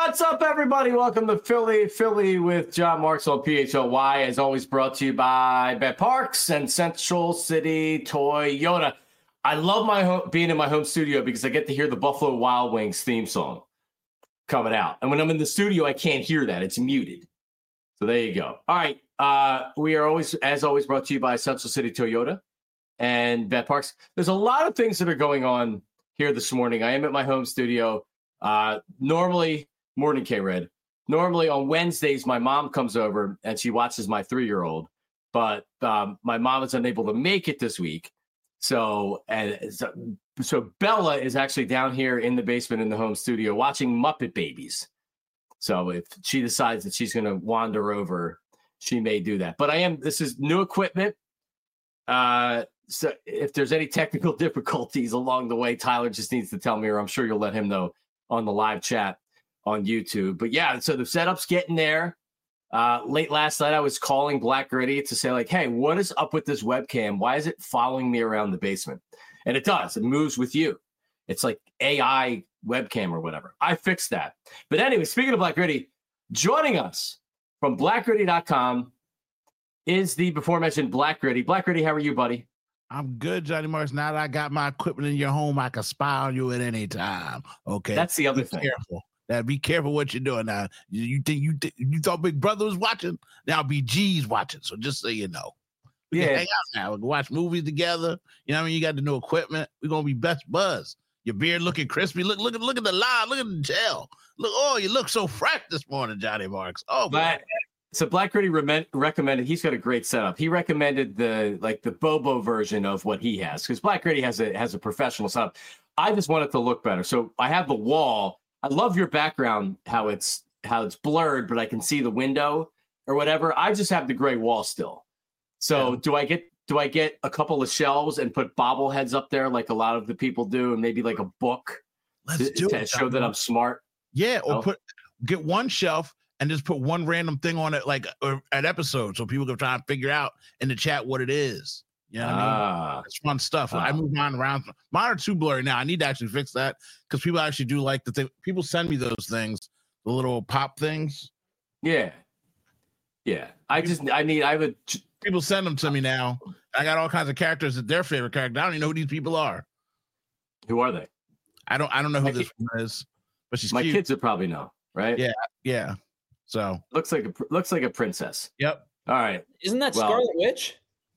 What's up, everybody? Welcome to Philly with John Marks on PHLY. As always, brought to you by BetParx and Central City Toyota. I love being in my home studio because I get to hear the Buffalo Wild Wings theme song coming out. And when I'm in the studio, I can't hear that. It's muted. So there you go. All right. We are always brought to you by Central City Toyota and BetParx. There's a lot of things that are going on here this morning. I am at my home studio. Morning, K-Red. Normally on Wednesdays, my mom comes over and she watches my 3-year-old, but my mom is unable to make it this week. So Bella is actually down here in the basement in the home studio watching Muppet Babies. So if she decides that she's going to wander over, she may do that. But this is new equipment. So if there's any technical difficulties along the way, Tyler just needs to tell me, or I'm sure you'll let him know on the live chat on YouTube. But yeah, so the setup's getting there. Late last night, I was calling Black Gritty to say, like, hey, what is up with this webcam? Why is it following me around the basement? And it does. It moves with you. It's like AI webcam or whatever. I fixed that. But anyway, speaking of Black Gritty, joining us from blackgritty.com is the before mentioned Black Gritty. Black Gritty, how are you, buddy? I'm good, Johnny Marks. Now that I got my equipment in your home, I can spy on you at any time. Okay, that's the other thing. Careful. Now, be careful what you're doing. Now, you thought Big Brother was watching? Now BG's watching. So just so you know, we can hang out now. We can watch movies together. You know what I mean? You got the new equipment. We're gonna be best buds. Your beard looking crispy. Look at the line. Look at the gel. Look, you look so fresh this morning, Johnny Marks. Oh, man. So Black Gritty recommended. He's got a great setup. He recommended the Bobo version of what he has because Black Gritty has a professional setup. I just want it to look better. So I have the wall. I love your background, how it's blurred, but I can see the window or whatever. I just have the gray wall still. So do I get a couple of shelves and put bobbleheads up there like a lot of the people do, and maybe like a book to show that I'm smart? Yeah, or get one shelf and just put one random thing on it, like an episode, so people can try and figure out in the chat what it is. You know what I mean? It's fun stuff. I move mine around. Mine are too blurry now. I need to actually fix that because people actually do like the thing. People send me those things, the little pop things. Yeah. People send them to me now. I got all kinds of characters that their favorite character. I don't even know who these people are. Who are they? I don't know who this one is, but she's my cute. kids would probably know, right? Yeah. So looks like a princess. Yep. All right. Isn't that Scarlet Witch?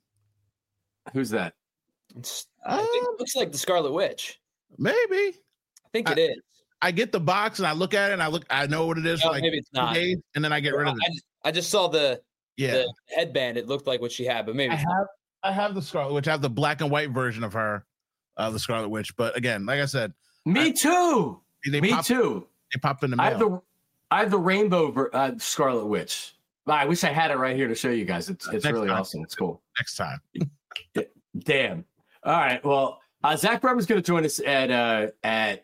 Who's that? I think it looks like the Scarlet Witch. Maybe. I think it is. I get the box and I look at it and I know what it is. No, maybe it's not. Days, and then I get rid of it. I just saw the headband. It looked like what she had, but maybe I have the Scarlet Witch. I have the black and white version of her, the Scarlet Witch. But again, like I said, me too. Me too. They pop in the mail. I have the rainbow Scarlet Witch. I wish I had it right here to show you guys. It's really awesome. It's cool. Next time. Damn. All right. Well, Zach Brummer's going to join us at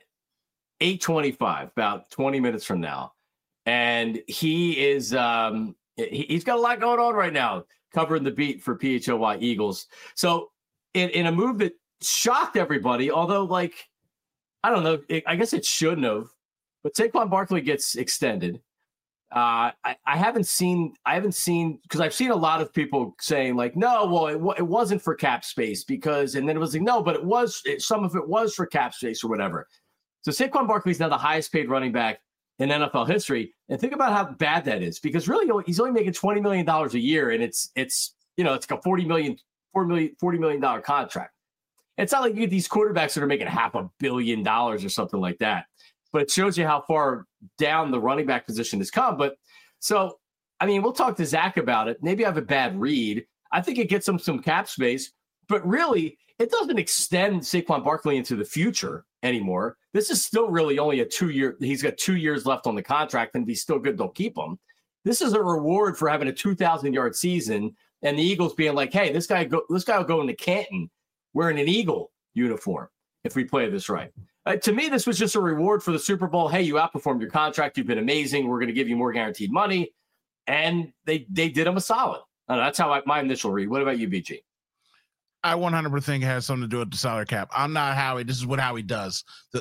8:25, about 20 minutes from now, and he is he's got a lot going on right now, covering the beat for PHLY Eagles. So, in a move that shocked everybody, although I don't know, I guess it shouldn't have, but Saquon Barkley gets extended. I haven't seen because I've seen a lot of people saying no, it wasn't for cap space and then it was no, but some of it was for cap space or whatever. So Saquon Barkley is now the highest paid running back in NFL history, and think about how bad that is because really he's only making $20 million a year, and it's like a $40 million contract. It's not like you get these quarterbacks that are making $500 million or something like that. But it shows you how far down the running back position has come. But so, I mean, we'll talk to Zach about it. Maybe I have a bad read. I think it gets him some cap space, but really it doesn't extend Saquon Barkley into the future anymore. This is still really only a 2-year. He's got 2 years left on the contract, and if he's still good, they'll keep him. This is a reward for having a 2,000-yard season, and the Eagles being like, hey, this guy will go into Canton wearing an Eagle uniform if we play this right. To me, this was just a reward for the Super Bowl. Hey, you outperformed your contract. You've been amazing. We're going to give you more guaranteed money. And they did him a solid. That's how my initial read. What about you, BG? I 100% think it has something to do with the salary cap. I'm not Howie. This is what Howie does.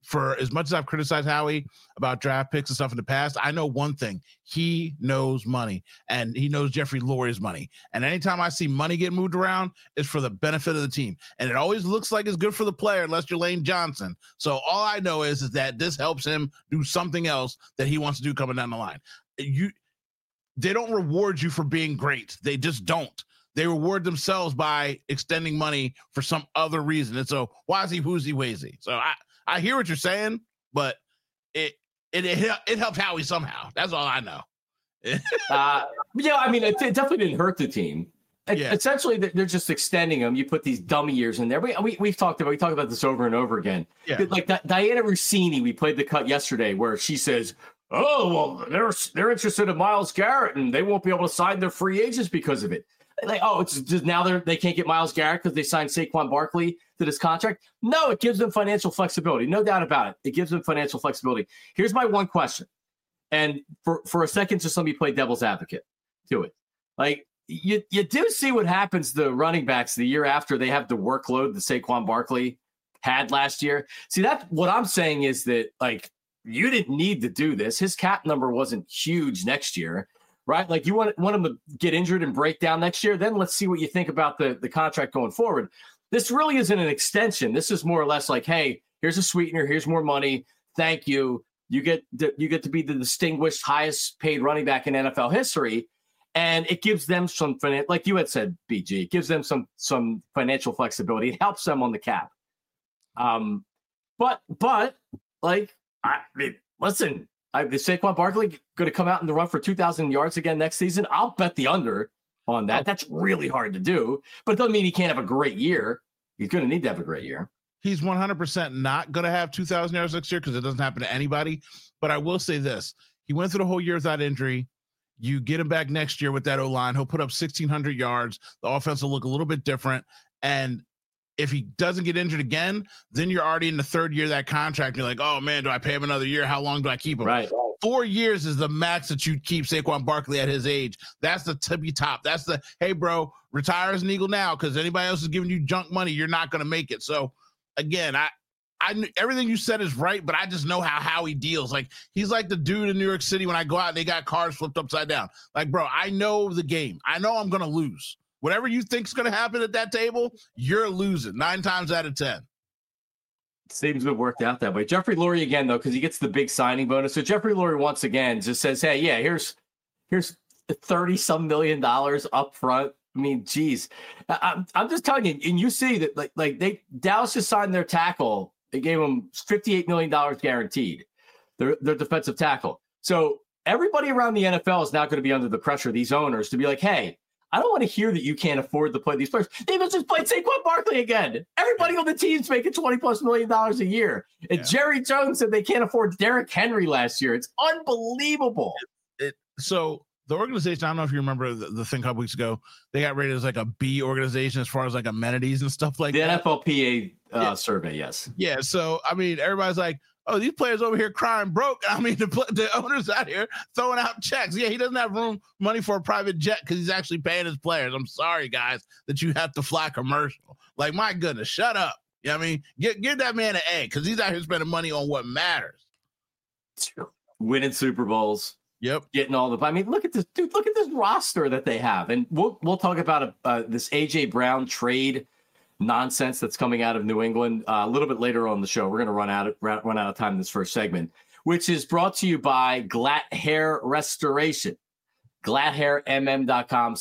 for as much as I've criticized Howie about draft picks and stuff in the past, I know one thing. He knows money, and he knows Jeffrey Lurie's money. And anytime I see money get moved around, it's for the benefit of the team. And it always looks like it's good for the player unless you're Lane Johnson. So all I know is that this helps him do something else that he wants to do coming down the line. They don't reward you for being great. They just don't. They reward themselves by extending money for some other reason. It's a wazy woozy wazy. So I hear what you're saying, but it helped Howie somehow. That's all I know. Yeah, I mean, it definitely didn't hurt the team. Yeah. Essentially, they're just extending them. You put these dummy years in there. We talked about this over and over again. Yeah. Like Diana Rossini, we played the cut yesterday where she says, "Oh, well, they're interested in Myles Garrett, and they won't be able to sign their free agents because of it." Like, oh, it's just now they can't get Myles Garrett because they signed Saquon Barkley to this contract. No, it gives them financial flexibility. No doubt about it. It gives them financial flexibility. Here's my one question. And for a second, just let me play devil's advocate to it. Like, you do see what happens to the running backs the year after they have the workload that Saquon Barkley had last year. See, that's what I'm saying is that, like, you didn't need to do this. His cap number wasn't huge next year. Right? Like, you want him to get injured and break down next year, then let's see what you think about the contract going forward. This really isn't an extension. This is more or less like, hey, here's a sweetener, here's more money. Thank you. You get to be the distinguished, highest paid running back in NFL history. And it gives them some, like you had said, BG, it gives them some financial flexibility. It helps them on the cap. But like, I mean, listen, is Saquon Barkley going to come out in the run for 2,000 yards again next season? I'll bet the under on that. That's really hard to do, but it doesn't mean he can't have a great year. He's going to need to have a great year. He's 100% not going to have 2,000 yards next year because it doesn't happen to anybody. But I will say this. He went through the whole year without injury. You get him back next year with that O-line. He'll put up 1,600 yards. The offense will look a little bit different. And if he doesn't get injured again, then you're already in the third year of that contract. You're like, oh, man, do I pay him another year? How long do I keep him? Right. 4 years is the max that you'd keep Saquon Barkley at his age. That's the tippy top. That's the, hey, bro, retire as an Eagle now because anybody else is giving you junk money. You're not going to make it. So, again, I everything you said is right, but I just know how he deals. Like, he's like the dude in New York City when I go out and they got cars flipped upside down. Like, bro, I know the game. I know I'm going to lose. Whatever you think's going to happen at that table, you're losing 9 times out of 10. Seems to have worked out that way. Jeffrey Lurie again, though, because he gets the big signing bonus. So Jeffrey Lurie once again just says, hey, yeah, here's $30-some million up front. I mean, geez, I'm just telling you, and you see that like Dallas just signed their tackle. They gave him $58 million guaranteed, their defensive tackle. So everybody around the NFL is now going to be under the pressure of these owners to be like, hey, I don't want to hear that you can't afford to play these players. They just played Saquon Barkley again. Everybody on the team's making $20+ million a year. And Jerry Jones said they can't afford Derrick Henry last year. It's unbelievable. So the organization, I don't know if you remember the thing a couple weeks ago, they got rated as like a B organization as far as like amenities and stuff like that. The NFLPA survey, yes. Yeah, so, I mean, everybody's like, oh, these players over here crying broke. I mean, the owners out here throwing out checks. Yeah, he doesn't have money for a private jet because he's actually paying his players. I'm sorry, guys, that you have to fly commercial. Like, my goodness, shut up. You know what I mean? Give that man an A because he's out here spending money on what matters. Winning Super Bowls. Yep. Getting all the – I mean, look at this, dude. Look at this roster that they have. And we'll talk about this A.J. Brown trade nonsense that's coming out of New England a little bit later on the show. We're going to run out of time in this first segment, which is brought to you by Glatt Hair Restoration. GlattHairMM.com,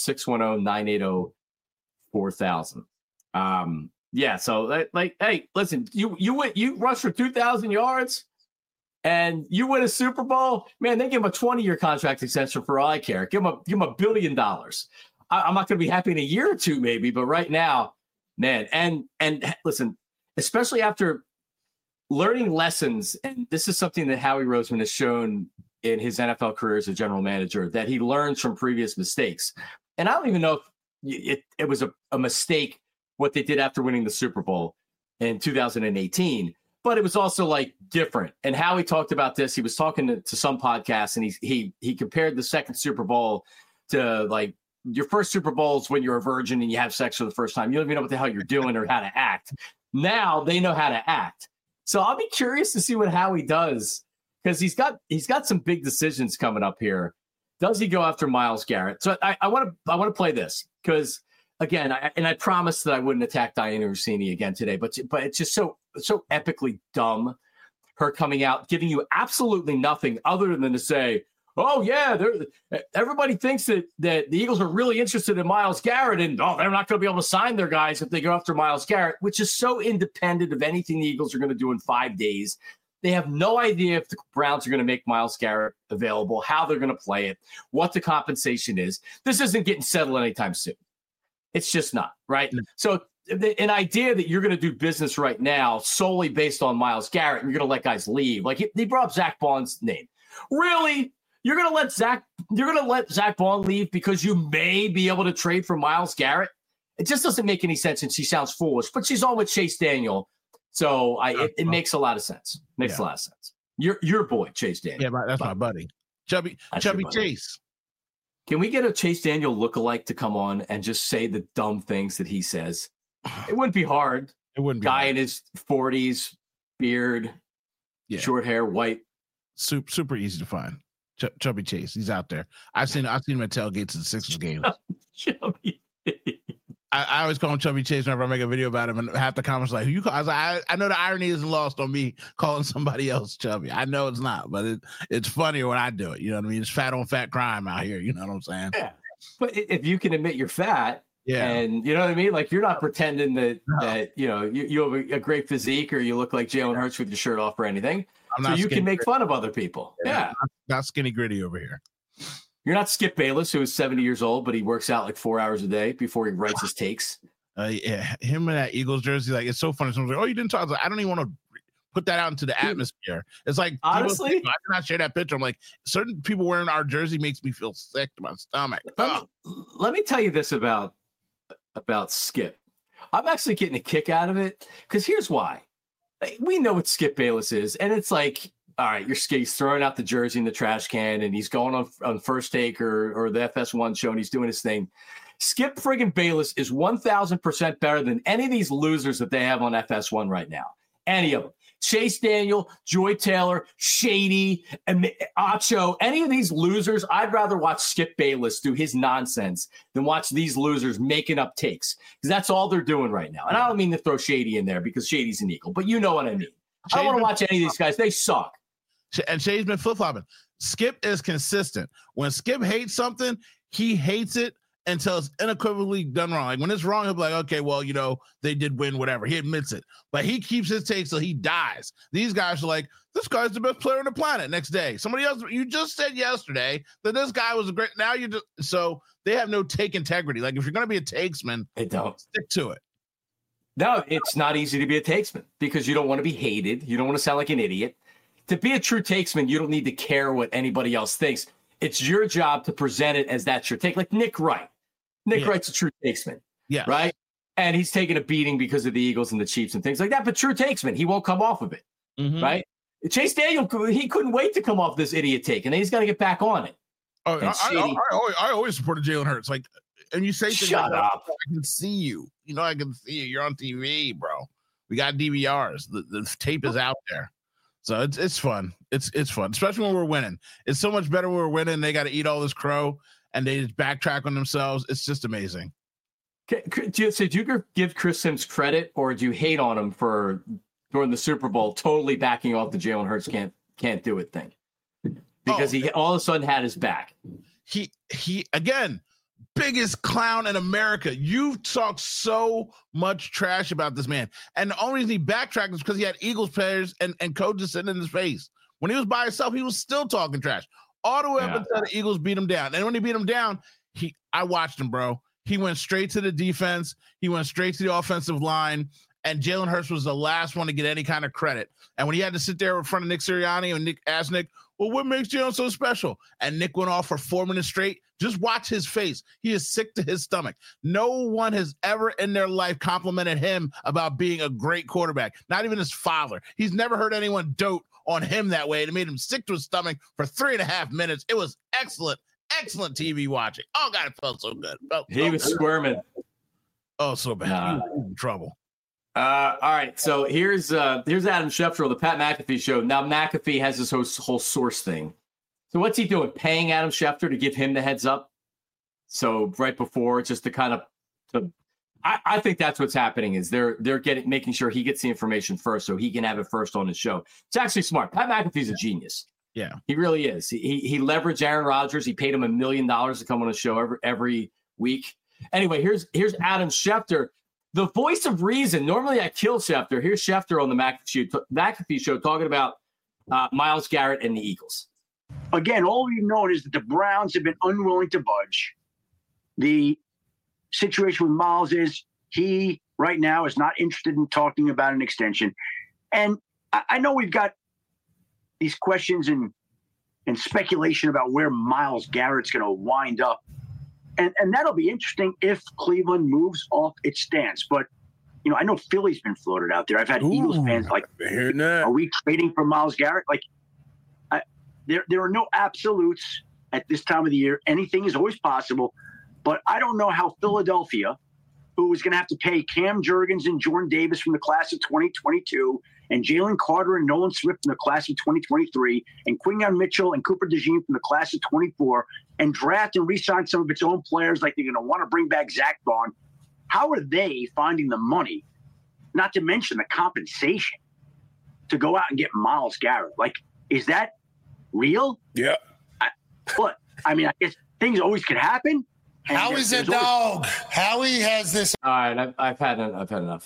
610-980-4000. Yeah, so like, hey, listen, you rush for 2,000 yards and you win a Super Bowl, man, they give him a 20-year contract extension for all I care. Give him $1 billion. I'm not going to be happy in a year or two maybe, but right now, man, and listen, especially after learning lessons, and this is something that Howie Roseman has shown in his NFL career as a general manager, that he learns from previous mistakes. And I don't even know if it was a mistake what they did after winning the Super Bowl in 2018, but it was also like different. And Howie talked about this. He was talking to some podcasts, and he compared the second Super Bowl to like your first Super Bowl is when you're a virgin and you have sex for the first time. You don't even know what the hell you're doing or how to act. Now they know how to act. So I'll be curious to see what Howie does, because he's got some big decisions coming up here. Does he go after Myles Garrett? So I want to play this because, again, I promised that I wouldn't attack Diana Russini again today, but it's just so epically dumb. Her coming out, giving you absolutely nothing other than to say, oh, yeah, everybody thinks that the Eagles are really interested in Myles Garrett, and they're not going to be able to sign their guys if they go after Myles Garrett, which is so independent of anything the Eagles are going to do in 5 days. They have no idea if the Browns are going to make Myles Garrett available, how they're going to play it, what the compensation is. This isn't getting settled anytime soon. It's just not, right? Mm-hmm. So an idea that you're going to do business right now solely based on Myles Garrett, and you're going to let guys leave. Like he brought up Zach Baun's name. Really? You're going to let Zach Baun leave because you may be able to trade for Myles Garrett? It just doesn't make any sense, and she sounds foolish, but she's on with Chase Daniel. So it makes a lot of sense. Makes a lot of sense. Your boy, Chase Daniel. Yeah, that's my buddy. Chubby Chase. Can we get a Chase Daniel lookalike to come on and just say the dumb things that he says? It wouldn't be hard. It wouldn't be Guy hard. In his 40s, beard, short hair, white. Super easy to find. Chubby Chase. He's out there. I've seen him at tailgates at Sixers games. Chubby. I always call him Chubby Chase whenever I make a video about him, and half the comments like, "Who you call?" I was like, I know the irony isn't lost on me calling somebody else Chubby. I know it's not, but it's funnier when I do it. You know what I mean? It's fat on fat crime out here. You know what I'm saying? Yeah. But if you can admit you're fat, yeah, and you know what I mean, like you're not pretending that you know you have a great physique or you look like Jalen Hurts with your shirt off or anything. So you can make fun of other people. Yeah. Not skinny gritty over here. You're not Skip Bayless, who is 70 years old, but he works out like 4 hours a day before he writes his takes. Yeah, him in that Eagles jersey, like it's so funny. Someone's like, "Oh, you didn't talk." I was like, I don't even want to put that out into the atmosphere. It's like, honestly, I cannot share that picture. I'm like, certain people wearing our jersey makes me feel sick to my stomach. Let me tell you this about Skip. I'm actually getting a kick out of it because here's why. We know what Skip Bayless is, and it's like, all right, he's throwing out the jersey in the trash can, and he's going on First Take or the FS1 show, and he's doing his thing. Skip friggin' Bayless is 1,000% better than any of these losers that they have on FS1 right now. Any of them. Chase Daniel, Joy Taylor, Shady, and Acho, any of these losers, I'd rather watch Skip Bayless do his nonsense than watch these losers making up takes, because that's all they're doing right now. And I don't mean to throw Shady in there because Shady's an Eagle, but you know what I mean. I don't want to watch any of these guys. They suck. And Shady's been flip-flopping. Skip is consistent. When Skip hates something, he hates it until it's unequivocally done wrong. Like when it's wrong, he'll be like, okay, well, you know, they did win, whatever. He admits it. But he keeps his takes till he dies. These guys are like, this guy's the best player on the planet. Next day, somebody else, you just said yesterday that this guy was a great, now you just, so they have no take integrity. Like if you're going to be a takesman, they don't stick to it. No, it's not easy to be a takesman because you don't want to be hated. You don't want to sound like an idiot. To be a true takesman, you don't need to care what anybody else thinks. It's your job to present it as that's your take. Like Nick Wright. Nick Wright's a true takesman. Yeah. Right? And he's taking a beating because of the Eagles and the Chiefs and things like that. But true takesman, he won't come off of it. Mm-hmm. Right? Chase Daniel, he couldn't wait to come off this idiot take, and then he's got to get back on it. Oh, I always supported Jalen Hurts. Like, and you say things shut like, up. I can see you. You know, I can see you. You're on TV, bro. We got DVRs. The tape is out there. So it's fun. It's fun, especially when we're winning. It's so much better when we're winning. They got to eat all this crow, and they just backtrack on themselves. It's just amazing. Do you give Chris Sims credit, or do you hate on him for during the Super Bowl totally backing off the Jalen Hurts can't do it thing? Because he all of a sudden had his back. He again, biggest clown in America. You've talked so much trash about this man. And the only reason he backtracked is because he had Eagles players and coaches sitting in his face. When he was by himself, he was still talking trash. All the way up until the Eagles beat him down. And when he beat him down, I watched him, bro. He went straight to the defense. He went straight to the offensive line. And Jalen Hurts was the last one to get any kind of credit. And when he had to sit there in front of Nick Sirianni and Nick asked Nick, well, what makes Jalen so special? And Nick went off for 4 minutes straight. Just watch his face. He is sick to his stomach. No one has ever in their life complimented him about being a great quarterback. Not even his father. He's never heard anyone dote on him that way. It made him sick to his stomach for 3.5 minutes. It was excellent TV watching. Oh, God, it felt so good. He was squirming. Oh, so bad. He was in trouble. All right. So here's Adam Schefter on the Pat McAfee show. Now McAfee has this whole source thing. So what's he doing? Paying Adam Schefter to give him the heads up. So right before, just to kind of, I think that's what's happening is they're making sure he gets the information first so he can have it first on his show. It's actually smart. Pat McAfee's a genius. Yeah, he really is. He leveraged Aaron Rodgers. He paid him $1 million to come on a show every week. Anyway, here's Adam Schefter, the voice of reason. Normally I kill Schefter. Here's Schefter on the McAfee show talking about Myles Garrett and the Eagles. Again, all we've known is that the Browns have been unwilling to budge. The situation with Myles is he right now is not interested in talking about an extension. And I know we've got these questions and speculation about where Myles Garrett's going to wind up. And that'll be interesting if Cleveland moves off its stance. But, I know Philly's been floated out there. I've had Eagles fans like, are we trading for Myles Garrett? Like, there are no absolutes at this time of the year. Anything is always possible. But I don't know how Philadelphia, who is going to have to pay Cam Jurgens and Jordan Davis from the class of 2022, and Jalen Carter and Nolan Swift from the class of 2023, and Quinyon Mitchell and Cooper DeJean from the class of 24, and draft and re-sign some of its own players like they're going to want to bring back Zach Bond. How are they finding the money, not to mention the compensation, to go out and get Myles Garrett? Like, is that real? Yeah. I guess things always could happen. Howie's a dog. Howie has this. All right, I've had enough.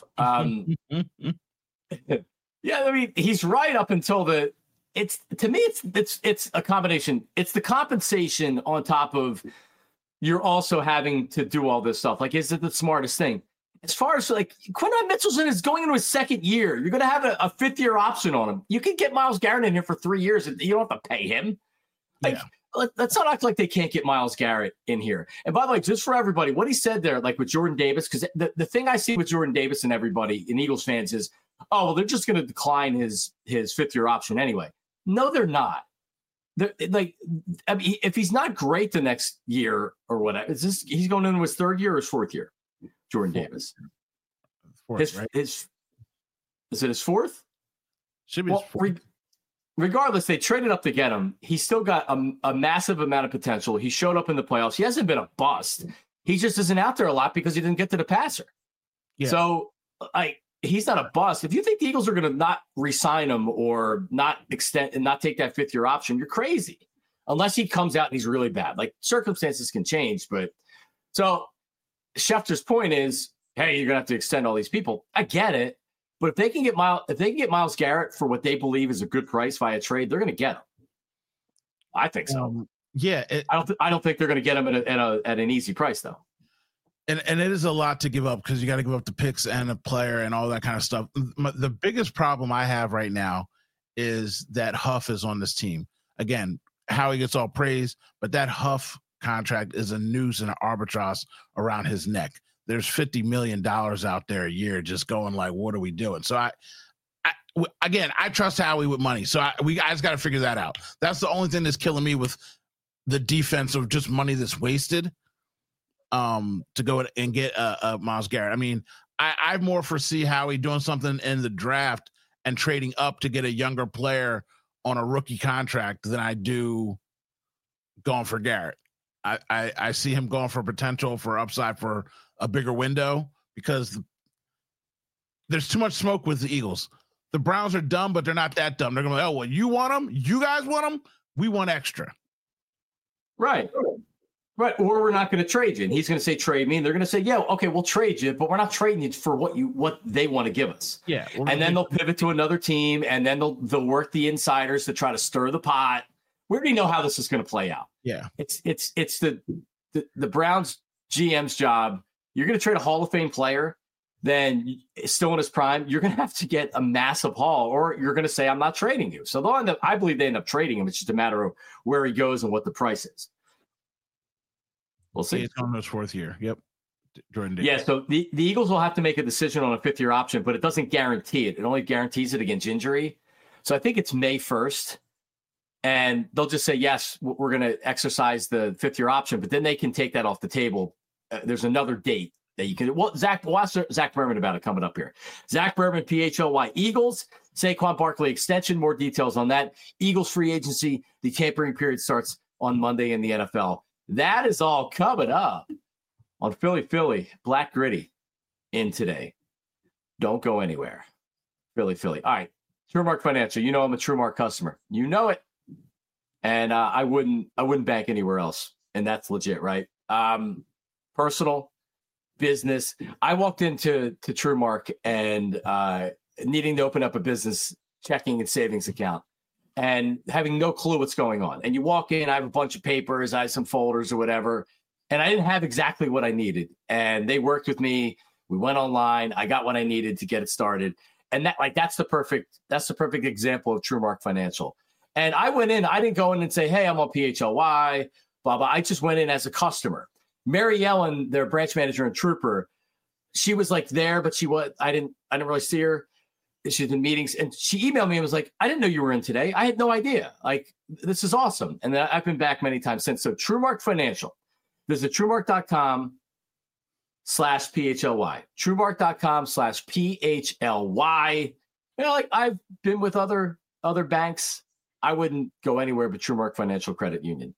Yeah, he's right up until it's a combination. It's the compensation on top of you're also having to do all this stuff. Like, is it the smartest thing? As far as Quinyon Mitchell's going into his second year, you're going to have a fifth year option on him. You can get Myles Garrett in here for 3 years and you don't have to pay him. Let's not act like they can't get Myles Garrett in here. And by the way, just for everybody, what he said there, like with Jordan Davis, because the thing I see with Jordan Davis and everybody and Eagles fans is, oh, well, they're just going to decline his fifth year option anyway. No, they're not. If he's not great the next year or whatever, he's going into his third year or his fourth year, Jordan Davis. Fourth, right? Is it his fourth? Should be his fourth. Regardless, they traded up to get him. He's still got a massive amount of potential. He showed up in the playoffs. He hasn't been a bust. He just isn't out there a lot because he didn't get to the passer. Yeah. So, he's not a bust. If you think the Eagles are going to not re-sign him or not extend and not take that fifth year option, you're crazy. Unless he comes out and he's really bad. Like, circumstances can change. But so Schefter's point is, hey, you're going to have to extend all these people. I get it. But if they can get Myles Garrett for what they believe is a good price via trade, they're going to get him. I think so. I don't think they're going to get him at an easy price though. And it is a lot to give up because you got to give up the picks and the player and all that kind of stuff. The biggest problem I have right now is that Huff is on this team. Again, Howie gets all praise, but that Huff contract is a noose and an albatross around his neck. There's $50 million out there a year just going like, what are we doing? So I trust Howie with money. So we guys got to figure that out. That's the only thing that's killing me with the defense of just money that's wasted to go and get Myles Garrett. I more foresee Howie doing something in the draft and trading up to get a younger player on a rookie contract than I do going for Garrett. I see him going for potential for upside for a bigger window because there's too much smoke with the Eagles. The Browns are dumb, but they're not that dumb. They're going to be, oh, well, you want them? You guys want them? We want extra. Right. Or we're not going to trade you. And he's going to say, trade me. And they're going to say, yeah, okay, we'll trade you, but we're not trading you for what they want to give us. Yeah. And then they'll pivot to another team, and then they'll work the insiders to try to stir the pot. We already know how this is going to play out. Yeah. It's the Browns GM's job. You're going to trade a Hall of Fame player, then still in his prime, you're going to have to get a massive haul, or you're going to say, I'm not trading you. So I believe they end up trading him. It's just a matter of where he goes and what the price is. We'll see. It's on his fourth year. Yep. Jordan Davis. Yeah, so the Eagles will have to make a decision on a fifth-year option, but it doesn't guarantee it. It only guarantees it against injury. So I think it's May 1st. And they'll just say, yes, we're going to exercise the fifth-year option, but then they can take that off the table. There's another date that you can. Well, watch Zach Berman about it coming up here. Zach Berman, PHLY Eagles, Saquon Barkley extension. More details on that. Eagles free agency. The tampering period starts on Monday in the NFL. That is all coming up on Philly. Black Gritty in today. Don't go anywhere. Philly. All right. TrueMark Financial. You know I'm a TrueMark customer. You know it. And I wouldn't bank anywhere else. And that's legit, right? Personal, business. I walked into TrueMark and needing to open up a business checking and savings account and having no clue what's going on. And you walk in, I have a bunch of papers, I have some folders or whatever, and I didn't have exactly what I needed. And they worked with me. We went online. I got what I needed to get it started. And that's the perfect example of TrueMark Financial. And I went in, I didn't go in and say, hey, I'm on PHLY, blah, blah. I just went in as a customer. Mary Ellen, their branch manager and trooper, she was like there, but I didn't really see her. She's in meetings, and she emailed me and was like, I didn't know you were in today. I had no idea. Like, this is awesome. And I've been back many times since. So TrueMark Financial, visit TrueMark.com/PHLY, TrueMark.com/PHLY. You know, like I've been with other banks. I wouldn't go anywhere but TrueMark Financial Credit Union.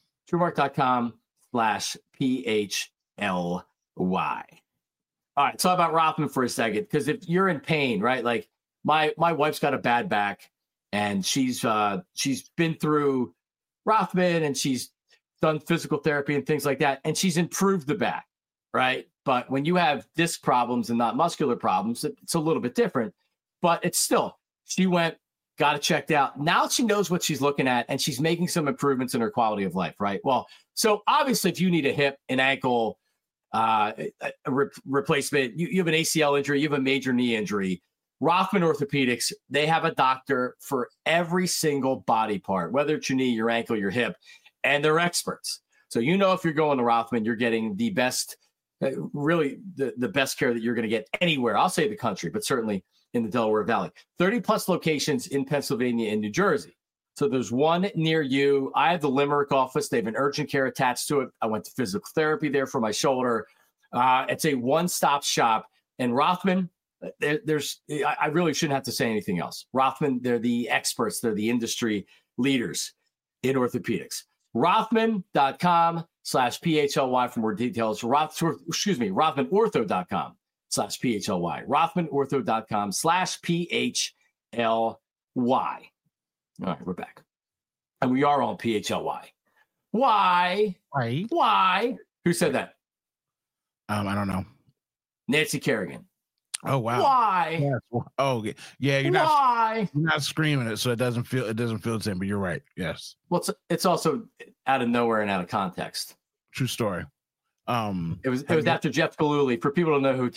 TrueMark.com/PHLY. All right, talk about Rothman for a second, because if you're in pain, right? Like my wife's got a bad back, and she's been through Rothman, and she's done physical therapy and things like that, and she's improved the back, right? But when you have disc problems and not muscular problems, it's a little bit different. But it's still, she went, got it checked out. Now she knows what she's looking at, and she's making some improvements in her quality of life, right? Well, so obviously, if you need a hip, an ankle, replacement, you have an ACL injury, you have a major knee injury, Rothman Orthopedics, they have a doctor for every single body part, whether it's your knee, your ankle, your hip, and they're experts. So you know if you're going to Rothman, you're getting the best, really the best care that you're going to get anywhere. I'll say the country, but certainly in the Delaware Valley. 30-plus locations in Pennsylvania and New Jersey. So there's one near you. I have the Limerick office. They have an urgent care attached to it. I went to physical therapy there for my shoulder. It's a one-stop shop. And Rothman, I really shouldn't have to say anything else. Rothman, they're the experts. They're the industry leaders in orthopedics. Rothman.com/PHLY for more details. RothmanOrtho.com/PHLY. RothmanOrtho.com/PHLY. All right, we're back. And we are on PHLY. Why? Why? Who said that? I don't know. Nancy Kerrigan. Oh, wow. Why? Yes. Oh, yeah. You're not screaming it, so it doesn't feel the same, but you're right. Yes. Well, it's also out of nowhere and out of context. True story. It was after Jeff Gillooly. For people to know who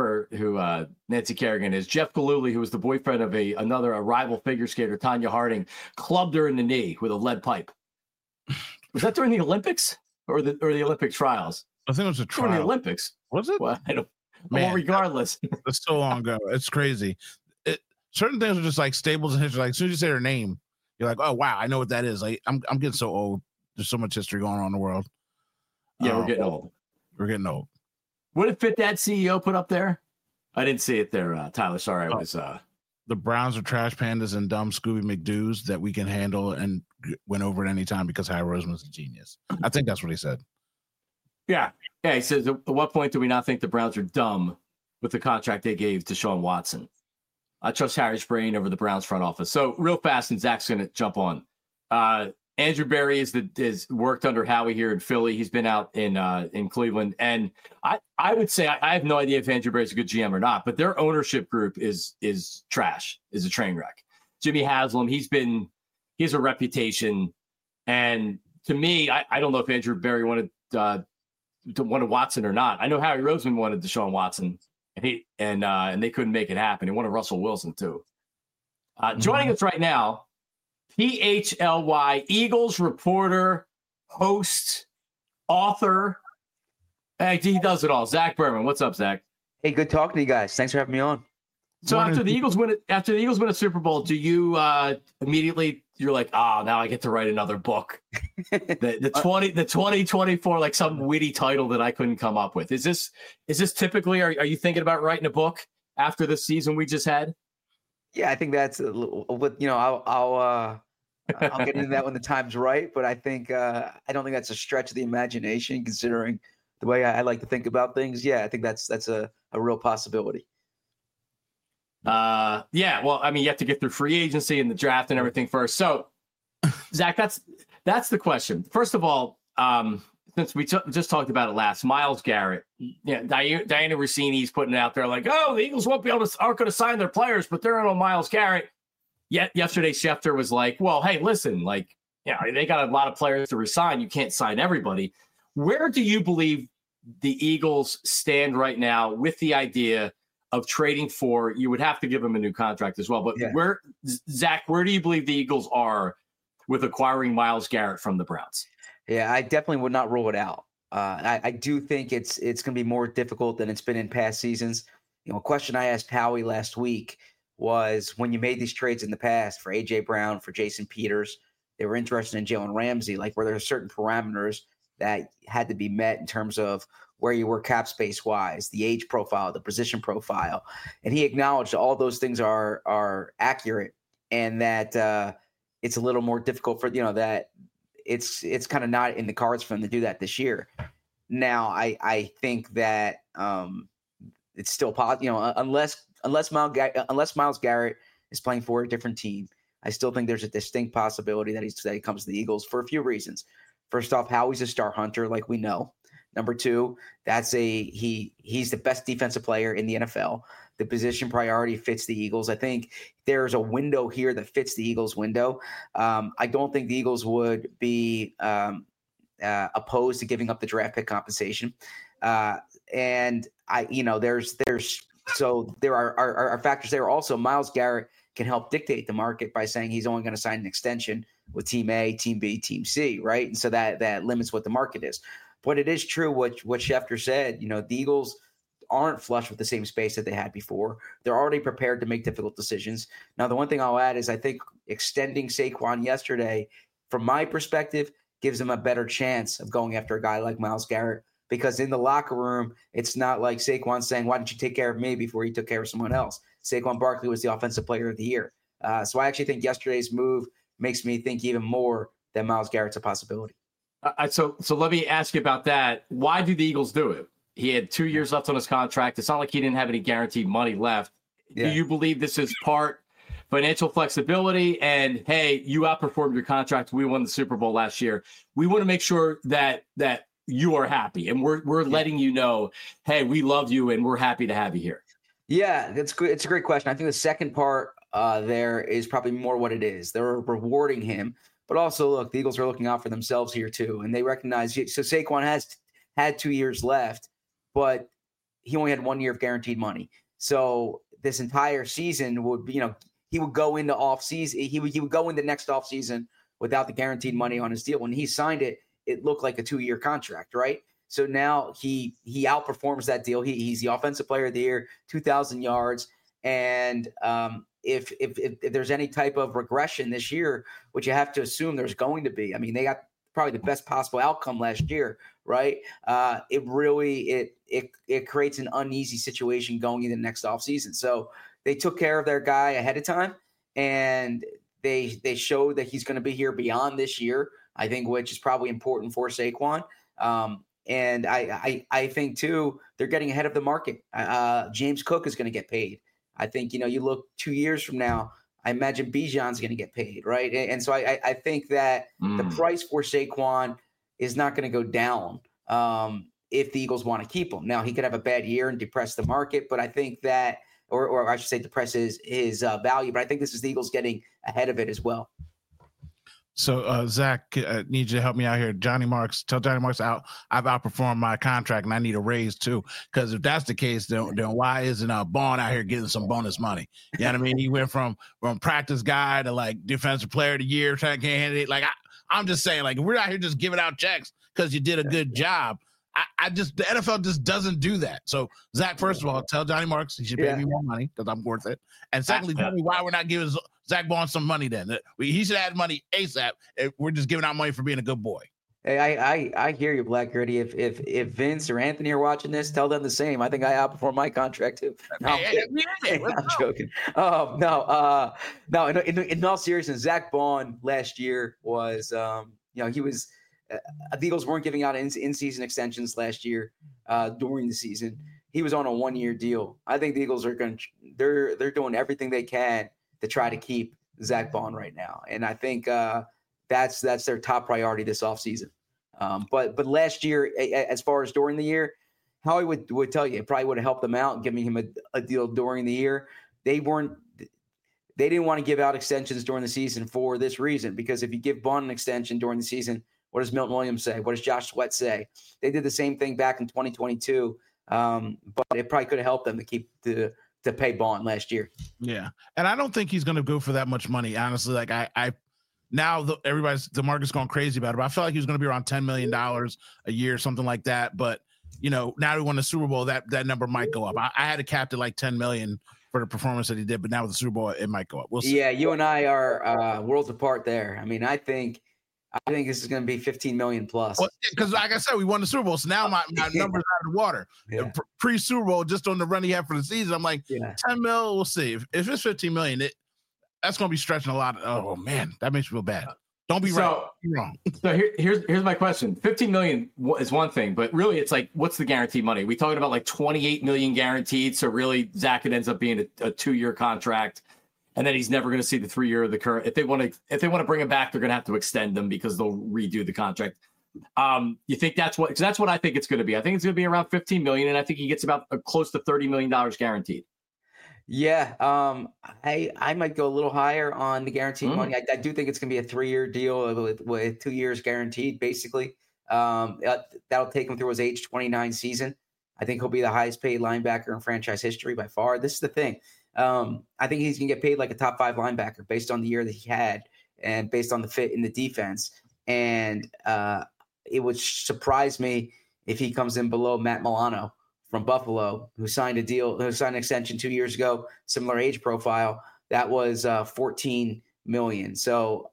Nancy Kerrigan is, Jeff Gillooly, who was the boyfriend of a rival figure skater, Tanya Harding, clubbed her in the knee with a lead pipe. Was that during the Olympics or the Olympic trials? I think it was a trial. During the Olympics. Was it? Well, I don't. Man, well, regardless, it's so long ago. It's crazy. Certain things are just like staples in history. Like as soon as you say her name, you're like, oh wow, I know what that is. Like I'm getting so old. There's so much history going on in the world. Yeah, we're getting old. We're getting old. What did Fit Dad CEO put up there? I didn't see it there, Tyler. Sorry, I was. The Browns are trash pandas and dumb Scooby McDoos that we can handle and win over at any time because Howie Roseman's a genius. I think that's what he said. Yeah. He says, at what point do we not think the Browns are dumb with the contract they gave to Deshaun Watson? I trust Harry's brain over the Browns front office. So real fast, and Zach's going to jump on. Andrew Berry is worked under Howie here in Philly. He's been out in Cleveland. And I would say I have no idea if Andrew Berry's a good GM or not, but their ownership group is trash, is a train wreck. Jimmy Haslam, he has a reputation. And to me, I don't know if Andrew Berry wanted Watson or not. I know Howie Roseman wanted Deshaun Watson, and they couldn't make it happen. He wanted Russell Wilson too. Joining us right now, PHLY Eagles reporter, host, author. He does it all. Zach Berman. What's up, Zach? Hey, good talking to you guys. Thanks for having me on. So after the Eagles win a Super Bowl, do you immediately you're like, oh, now I get to write another book, the 2024, like some witty title that I couldn't come up with. Is this typically? Are you thinking about writing a book after the season we just had? Yeah, I think that's I'll get into that when the time's right. But I think I don't think that's a stretch of the imagination, considering the way I like to think about things. Yeah, I think that's a real possibility. Yeah, well, I mean, you have to get through free agency and the draft and everything first. So, Zach, that's the question. First of all, since we just talked about it last, Myles Garrett, Diana Rossini's putting it out there like, oh, the Eagles aren't going to sign their players, but they're in on Myles Garrett. Yet yesterday, Schefter was like, well, hey, listen, like, they got a lot of players to resign. You can't sign everybody. Where do you believe the Eagles stand right now with the idea of trading for? You would have to give him a new contract as well. But Zach, where do you believe the Eagles are with acquiring Myles Garrett from the Browns? Yeah, I definitely would not rule it out. I do think it's going to be more difficult than it's been in past seasons. A question I asked Howie last week was, when you made these trades in the past for A.J. Brown, for Jason Peters, they were interested in Jalen Ramsey, like, were there certain parameters that had to be met in terms of where you were cap space wise, the age profile, the position profile. And he acknowledged all those things are accurate, and that it's a little more difficult for, that it's kind of not in the cards for him to do that this year. Now, I think that it's still possible, unless Myles Garrett is playing for a different team, I still think there's a distinct possibility that he comes to the Eagles for a few reasons. First off, Howie's a star hunter, like we know. Number two, he's the best defensive player in the NFL. The position priority fits the Eagles. I think there's a window here that fits the Eagles window. I don't think the Eagles would be opposed to giving up the draft pick compensation. And there are factors there. Also, Myles Garrett can help dictate the market by saying he's only going to sign an extension with Team A, Team B, Team C, right? And so that limits what the market is. But it is true what Schefter said. The Eagles aren't flush with the same space that they had before. They're already prepared to make difficult decisions. Now, the one thing I'll add is I think extending Saquon yesterday, from my perspective, gives them a better chance of going after a guy like Myles Garrett, because in the locker room, it's not like Saquon saying, why didn't you take care of me before you took care of someone else? Saquon Barkley was the offensive player of the year. So I actually think yesterday's move makes me think even more that Myles Garrett's a possibility. So let me ask you about that. Why do the Eagles do it? He had 2 years left on his contract. It's not like he didn't have any guaranteed money left. Yeah. Do you believe this is part financial flexibility and, hey, you outperformed your contract, we won the Super Bowl last year, we want to make sure that you are happy, and we're letting you know, hey, we love you and we're happy to have you here? Yeah, that's good. It's a great question. I think the second part there is probably more what it is. They're rewarding him, but also, look, the Eagles are looking out for themselves here too, and they recognize. So Saquon has had 2 years left, but he only had 1 year of guaranteed money. So this entire season would, he would go into off season. He would go into next off season without the guaranteed money on his deal. When he signed it, it looked like a 2-year contract, right? So now he outperforms that deal. He's the offensive player of the year, 2,000 yards. And if there's any type of regression this year, which you have to assume there's going to be, I mean, they got probably the best possible outcome last year, right? It creates an uneasy situation going into the next offseason. So they took care of their guy ahead of time, and they showed that he's going to be here beyond this year, I think, which is probably important for Saquon. And I think, too, they're getting ahead of the market. James Cook is going to get paid. I think, you look 2 years from now, I imagine Bijan's going to get paid, right? And so I think that the price for Saquon is not going to go down if the Eagles want to keep him. Now, he could have a bad year and depress the market, but I think that, or I should say depress his value, but I think this is the Eagles getting ahead of it as well. So, Zach, I need you to help me out here. Tell Johnny Marks I've outperformed my contract and I need a raise too. Because if that's the case, then why isn't Bond out here getting some bonus money? You know what I mean? He went from practice guy to like defensive player of the year, trying to candidate. Like I'm just saying, like, we're out here just giving out checks because you did a good job. I just the NFL just doesn't do that. So Zach, first of all, tell Johnny Marks he should pay me more money because I'm worth it. And secondly, tell me why we're not giving Zach Bond some money. Then he should add money ASAP. We're just giving out money for being a good boy. Hey, I hear you, Black Gritty. If Vince or Anthony are watching this, tell them the same. I think I outperformed my contract too. No, I'm joking. No. In all seriousness, Zach Bond last year was, he was. The Eagles weren't giving out in-season extensions last year during the season. He was on a 1-year deal. I think the Eagles are they're doing everything they can to try to keep Zach Bond right now, and I think that's their top priority this offseason. But last year, as far as during the year, Howie would tell you it probably would have helped them out giving him a deal during the year. They didn't want to give out extensions during the season for this reason, because if you give Bond an extension during the season, what does Milton Williams say? What does Josh Sweat say? They did the same thing back in 2022, but it probably could have helped them to pay Bond last year. Yeah, and I don't think he's going to go for that much money, honestly. Like everybody's DeMarcus going crazy about it, but I felt like he was going to be around $10 million a year, something like that. But now he won the Super Bowl, that number might go up. I had it capped at like $10 million for the performance that he did, but now with the Super Bowl, it might go up. We'll see. Yeah, you and I are worlds apart there. I mean, I think this is going to be 15 million plus. Because, like I said, we won the Super Bowl, so now my numbers out of the water. Yeah. Pre-Super Bowl, just on the run he had for the season, I'm like, 10 mil, we'll see. If it's 15 million, that's going to be stretching a lot. Oh man, that makes me feel bad. Don't be wrong. So here's my question. 15 million is one thing, but really it's like, what's the guaranteed money? We talking about like 28 million guaranteed. So really Zach, it ends up being a 2-year contract. And then he's never going to see the 3-year of the current. If they want to bring him back, they're going to have to extend them because they'll redo the contract. You think that's what? Because that's what I think it's going to be. I think it's going to be around 15 million, and I think he gets about close to $30 million guaranteed. Yeah, I might go a little higher on the guaranteed money. I do think it's going to be a 3-year deal with 2 years guaranteed, basically. That'll take him through his age 29 season. I think he'll be the highest paid linebacker in franchise history by far. This is the thing. I think he's going to get paid like a top 5 linebacker based on the year that he had and based on the fit in the defense. And it would surprise me if he comes in below Matt Milano from Buffalo, who signed an extension 2 years ago, similar age profile. That was $14 million. So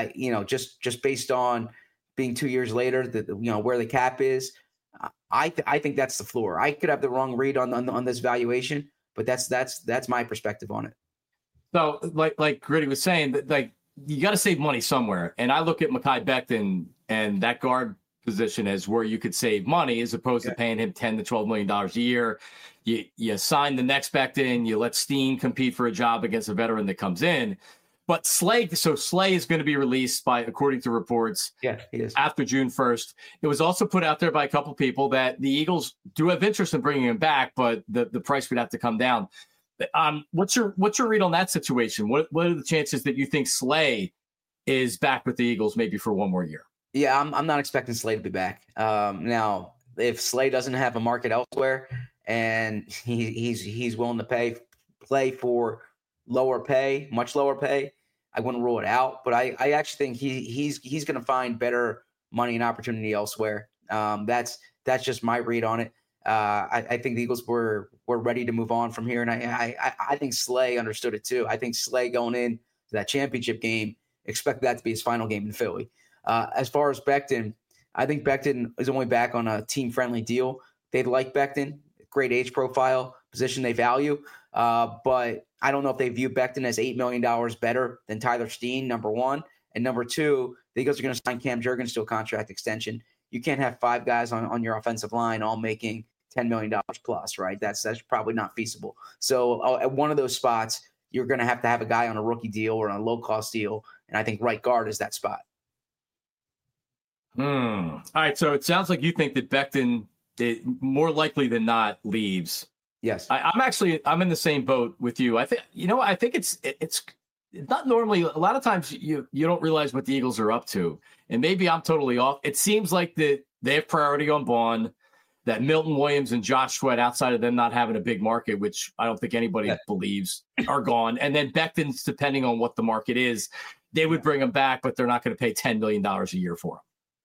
just based on being 2 years later, where the cap is, I think that's the floor. I could have the wrong read on this valuation, but that's my perspective on it. So like Gritty was saying, that like you got to save money somewhere. And I look at Mekhi Becton and that guard position as where you could save money as opposed to paying him $10 to $12 million a year. You sign the next Becton, you let Steen compete for a job against a veteran that comes in. But Slay is going to be released according to reports, he is, after June 1st. It was also put out there by a couple people that the Eagles do have interest in bringing him back, but the price would have to come down. What's your read on that situation? What are the chances that you think Slay is back with the Eagles maybe for one more year? Yeah, I'm not expecting Slay to be back. Now, if Slay doesn't have a market elsewhere and he's willing to play for much lower pay, I wouldn't rule it out. But I actually think he's going to find better money and opportunity elsewhere. That's just my read on it. I think the Eagles were ready to move on from here, and I think Slay understood it too. I think Slay going in to that championship game expected that to be his final game in Philly. As far as Becton, I think Becton is only back on a team-friendly deal. They like Becton, great age profile, position they value, but I don't know if they view Becton as $8 million better than Tyler Steen, number one. And number two, the Eagles are going to sign Cam Jurgens to a contract extension. You can't have 5 guys on your offensive line all making $10 million plus, right? That's probably not feasible. So at one of those spots, you're going to have a guy on a rookie deal or on a low-cost deal, and I think right guard is that spot. All right, so it sounds like you think that Becton, more likely than not, leaves. Yes, I'm in the same boat with you. I think it's not normally. A lot of times you don't realize what the Eagles are up to, and maybe I'm totally off. It seems like that they have priority on Bond, that Milton Williams and Josh Sweat, outside of them not having a big market, which I don't think anybody believes, are gone. And then Becton's, depending on what the market is, they would bring him back, but they're not going to pay $10 million a year for him.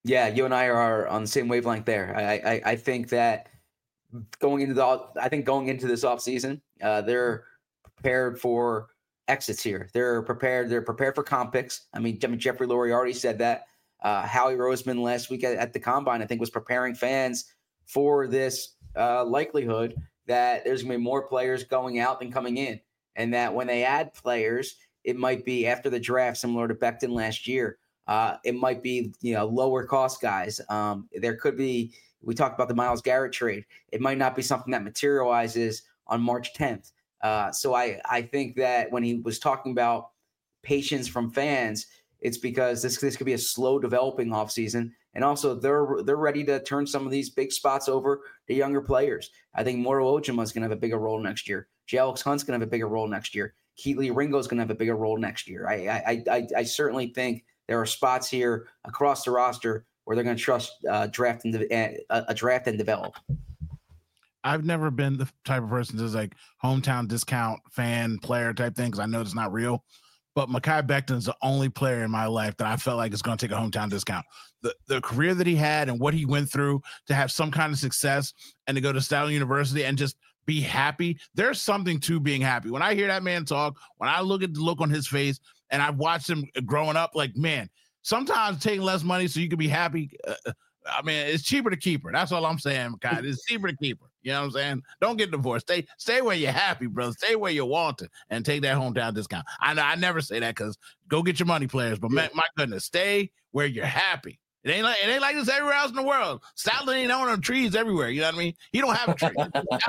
Yeah, you and I are on the same wavelength there. I think that going into this offseason, they're prepared for exits here. They're prepared for comp picks. I mean, Jeffrey Lurie already said that. Howie Roseman last week at the Combine, I think, was preparing fans for this likelihood that there's going to be more players going out than coming in, and that when they add players, it might be after the draft, similar to Becton last year. It might be, lower cost guys. There could be, we talked about the Myles Garrett trade. It might not be something that materializes on March 10th. So I think that when he was talking about patience from fans, it's because this could be a slow developing offseason. And also they're ready to turn some of these big spots over to younger players. I think Moro Ojima is going to have a bigger role next year. Alex Hunt's going to have a bigger role next year. Keatley Ringo is going to have a bigger role next year. I certainly think there are spots here across the roster where they're going to trust a draft and develop. I've never been the type of person that's like hometown discount fan player type thing, because I know it's not real. But Mekhi Becton is the only player in my life that I felt like is going to take a hometown discount. The career that he had and what he went through to have some kind of success and to go to Stuyvesant University and just be happy. There's something to being happy. When I hear that man talk, when I look at the look on his face, and I've watched him growing up, like, man, sometimes taking less money so you can be happy. I mean, it's cheaper to keep her. That's all I'm saying, Mekhi. It's cheaper to keep her. You know what I'm saying? Don't get divorced. Stay where you're happy, brother. Stay where you want to, and take that hometown discount. I never say that because go get your money, players. But my goodness, stay where you're happy. It ain't like this everywhere else in the world. Stoutland ain't owning trees everywhere. You know what I mean? He don't have a tree.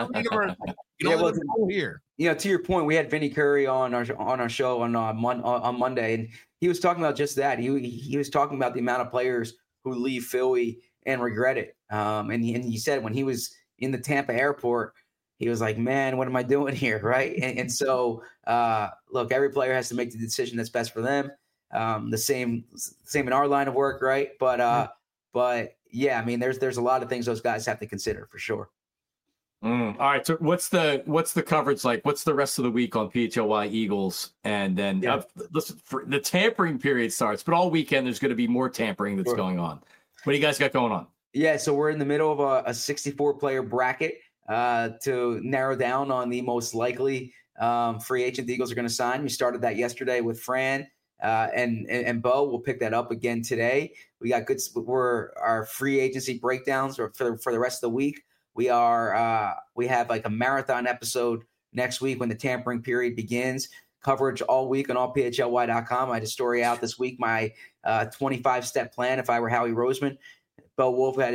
You don't live here. To your point, we had Vinny Curry on our show on Monday, and he was talking about just that. He was talking about the amount of players who leave Philly and regret it. And he said when he was in the Tampa airport, he was like, man, what am I doing here? Right. And so, look, every player has to make the decision that's best for them. The same in our line of work. Right. But yeah, I mean, there's a lot of things those guys have to consider for sure. All right. So what's the coverage like? What's the rest of the week on PHLY Eagles? And then listen, the tampering period starts, but all weekend there's going to be more tampering that's going on. What do you guys got going on? Yeah, so we're in the middle of a 64-player bracket to narrow down on the most likely free agent the Eagles are going to sign. We started that yesterday with Fran and Bo. We'll pick that up again today. We got our free agency breakdowns for the rest of the week. We have like a marathon episode next week when the tampering period begins. Coverage all week on allphly.com. I had a story out this week, my 25-step plan if I were Howie Roseman. Bo Wolf had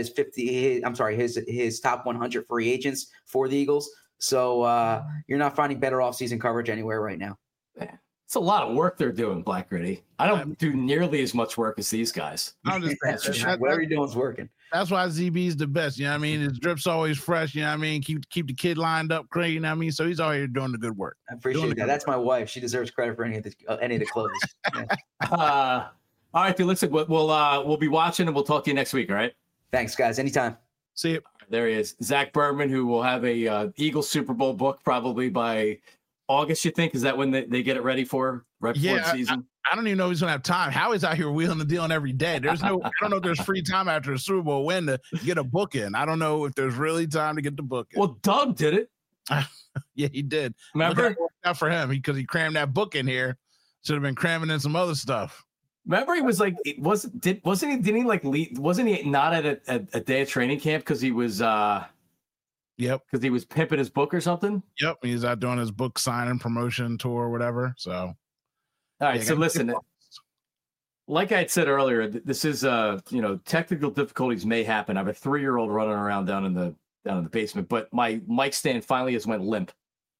his top 100 free agents for the Eagles. So you're not finding better offseason coverage anywhere right now. It's a lot of work they're doing, Black Gritty. I don't do nearly as much work as these guys. Whatever you're doing is working. That's why ZB's the best. You know what I mean? His drip's always fresh. You know what I mean? Keep the kid lined up, you know what I mean? So he's out here doing the good work. I appreciate that. That's my wife. She deserves credit for any of the clothes. Yeah. All right, listen, we'll be watching and we'll talk to you next week. All right. Thanks, guys. Anytime. See you. There he is, Zach Berman, who will have a Eagles Super Bowl book probably by August. You think is that when they get it ready for before the season? I don't even know if he's gonna have time. Howie's out here wheeling and dealing every day. I don't know if there's free time after a Super Bowl win to get a book in. I don't know if there's really time to get the book in. Well, Doug did it. Yeah, he did. Remember? Not for him because he crammed that book in here. Should have been cramming in some other stuff. Remember, he was like, wasn't he not at a day of training camp because he was because he was pimping his book or something? Yep, he's out doing his book signing promotion tour or whatever. So all right, so listen, like I had said earlier, this is technical difficulties may happen. I have a 3-year-old running around down in the basement, but my mic stand finally has went limp.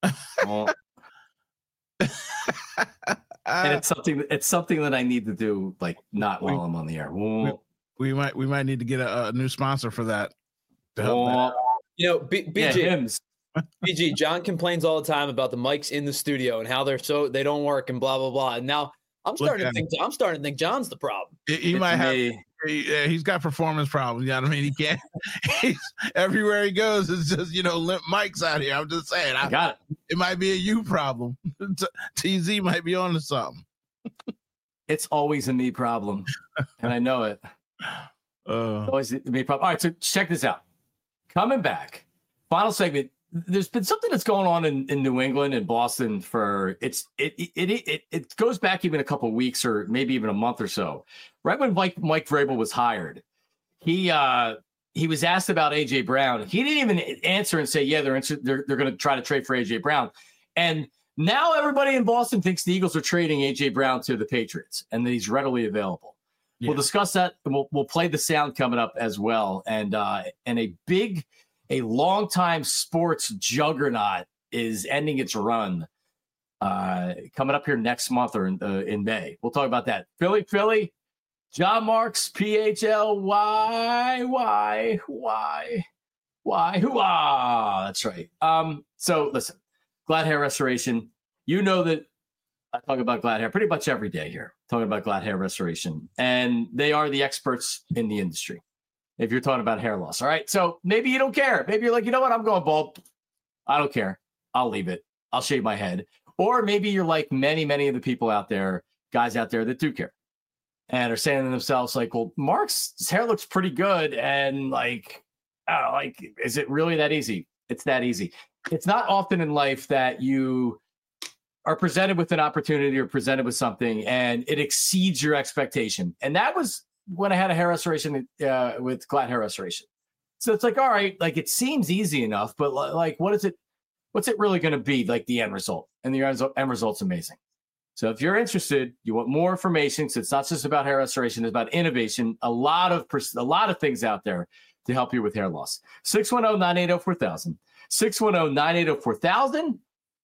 And it's something that I need to do, like not while I'm on the air. We might need to get a new sponsor for that to help BG, BG, John complains all the time about the mics in the studio and how they don't work and blah blah blah. And now I'm starting to think John's the problem. He might have. He's got performance problems. You know what I mean? He can't. Everywhere he goes, it's just limp mics out here. I'm just saying. I got it. It might be a you problem. TZ might be on to something. It's always a me problem, and I know it. Always be a problem. All right, so check this out. Coming back, final segment. There's been something that's going on in New England and Boston for it goes back even a couple of weeks or maybe even a month or so. Right when Mike Vrabel was hired, he was asked about AJ Brown. He didn't even answer and say, yeah, they're going to try to trade for AJ Brown. And now everybody in Boston thinks the Eagles are trading AJ Brown to the Patriots and that he's readily available. Yeah. We'll discuss that. And we'll play the sound coming up as well. And a longtime sports juggernaut is ending its run coming up here next month or in May. We'll talk about that. Philly, John Marks, PHLY, why? That's right. So listen, Glad Hair Restoration. You know that I talk about Glad Hair pretty much every day here, talking about Glad Hair Restoration. And they are the experts in the industry if you're talking about hair loss. All right. So maybe you don't care. Maybe you're like, you know what? I'm going bald. I don't care. I'll leave it. I'll shave my head. Or maybe you're like many, many of the people out there, guys out there that do care and are saying to themselves like, well, Mark's hair looks pretty good. And like, is it really that easy? It's that easy. It's not often in life that you are presented with an opportunity or presented with something and it exceeds your expectation. And that was when I had a hair restoration with Glad Hair Restoration. So it's like, all right, like it seems easy enough, but like, what's it really going to be like the end result? And the end result's amazing. So if you're interested, you want more information, so it's not just about hair restoration, it's about innovation, a lot of things out there to help you with hair loss. 610-980-4000, 610-980-4000,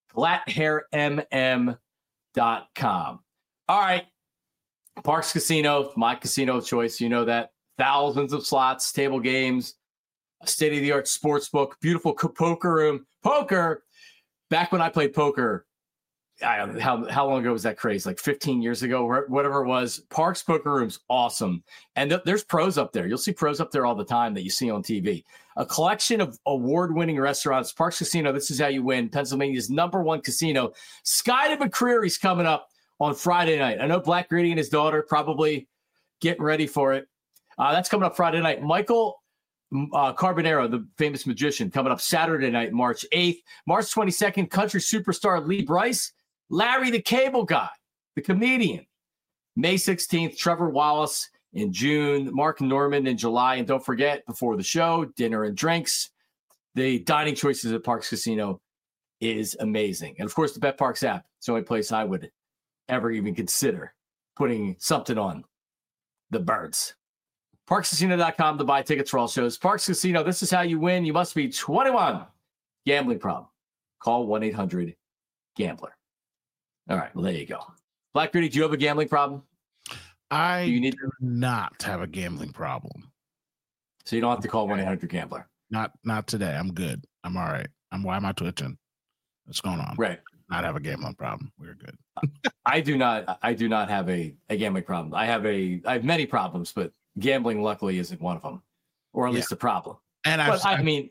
GladHairMM.com. All right. Parx Casino, my casino of choice. You know that. Thousands of slots, table games, a state-of-the-art sports book, beautiful poker room. Poker, back when I played poker, how long ago was that craze? Like 15 years ago, whatever it was. Parx Poker Room's awesome. And there's pros up there. You'll see pros up there all the time that you see on TV. A collection of award-winning restaurants. Parx Casino, this is how you win. Pennsylvania's #1 casino. Sky to McCreary's coming up on Friday night. I know Black Gritty and his daughter probably getting ready for it. That's coming up Friday night. Michael Carbonero, the famous magician, coming up Saturday night, March 8th. March 22nd, country superstar Lee Brice. Larry the Cable Guy, the comedian. May 16th, Trevor Wallace in June. Mark Norman in July. And don't forget, before the show, dinner and drinks. The dining choices at Parx Casino is amazing. And, of course, the BetParx app. It's the only place I would ever even consider putting something on the birds. ParxCasino.com to buy tickets for all shows. Parx Casino, this is how you win. You must be 21. Gambling problem. Call 1-800-GAMBLER. All right, well, there you go. Black Gritty, do you have a gambling problem? Do not have a gambling problem. So you don't have to call 1-800-GAMBLER. Not today. I'm good. I'm all right. Why am I twitching? What's going on? Right. Not have a gambling problem. We're good. I do not have a gambling problem. I have many problems, but gambling luckily isn't one of them, or at least a problem. And I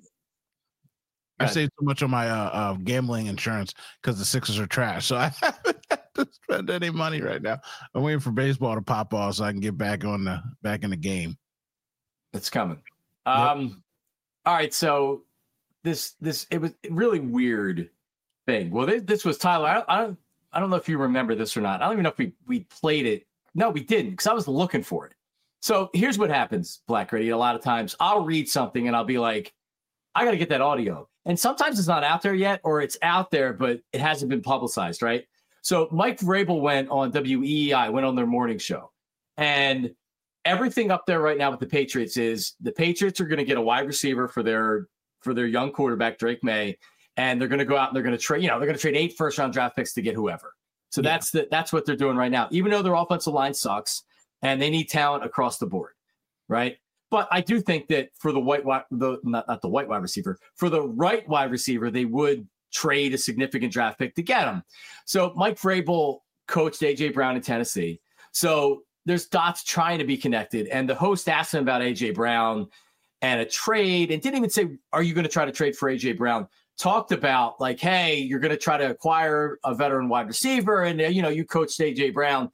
saved so much on my gambling insurance because the Sixers are trash. So I haven't had to spend any money right now. I'm waiting for baseball to pop off so I can get back in the game. It's coming. Yep. All right. So it was a really weird thing. Well, this was Tyler. I don't know if you remember this or not. I don't even know if we played it. No, we didn't, because I was looking for it. So here's what happens, Black Gritty. A lot of times I'll read something and I'll be like, I got to get that audio. And sometimes it's not out there yet, or it's out there, but it hasn't been publicized, right? So Mike Vrabel went on WEEI, went on their morning show. And everything up there right now with the Patriots is the Patriots are going to get a wide receiver for their young quarterback, Drake May. And they're going to go out and they're going to trade, they're going to trade 8 first-round draft picks to get whoever. So that's what they're doing right now, even though their offensive line sucks and they need talent across the board, right? But I do think that for the not the white wide receiver, for the right wide receiver, they would trade a significant draft pick to get him. So Mike Vrabel coached A.J. Brown in Tennessee. So there's dots trying to be connected. And the host asked him about A.J. Brown and a trade and didn't even say, are you going to try to trade for A.J. Brown? Talked about like, hey, you're going to try to acquire a veteran wide receiver. And, you coached A.J. Brown.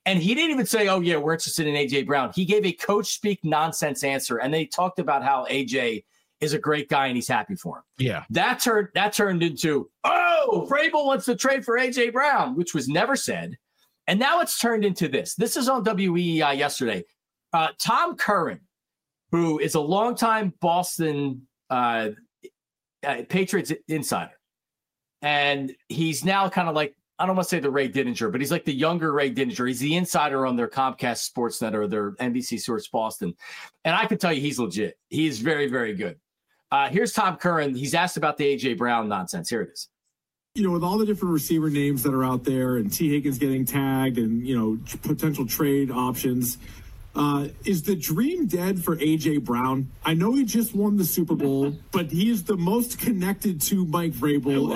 And he didn't even say, oh, yeah, we're interested in A.J. Brown. He gave a coach speak nonsense answer. And they talked about how A.J. is a great guy and he's happy for him. Yeah. That turned into, oh, Vrabel wants to trade for A.J. Brown, which was never said. And now it's turned into this. This is on WEEI yesterday. Tom Curran, who is a longtime Boston Patriots insider. And he's now kind of like, I don't want to say the Ray Didinger, but he's like the younger Ray Didinger. He's the insider on their Comcast Sportsnet or their NBC Sports Boston. And I can tell you he's legit. He is very, very good. Here's Tom Curran. He's asked about the A.J. Brown nonsense. Here it is. You know, with all the different receiver names that are out there and T. Higgins getting tagged and, you know, potential trade options, is the dream dead for A.J. Brown? I know he just won the Super Bowl, but he is the most connected to Mike Vrabel.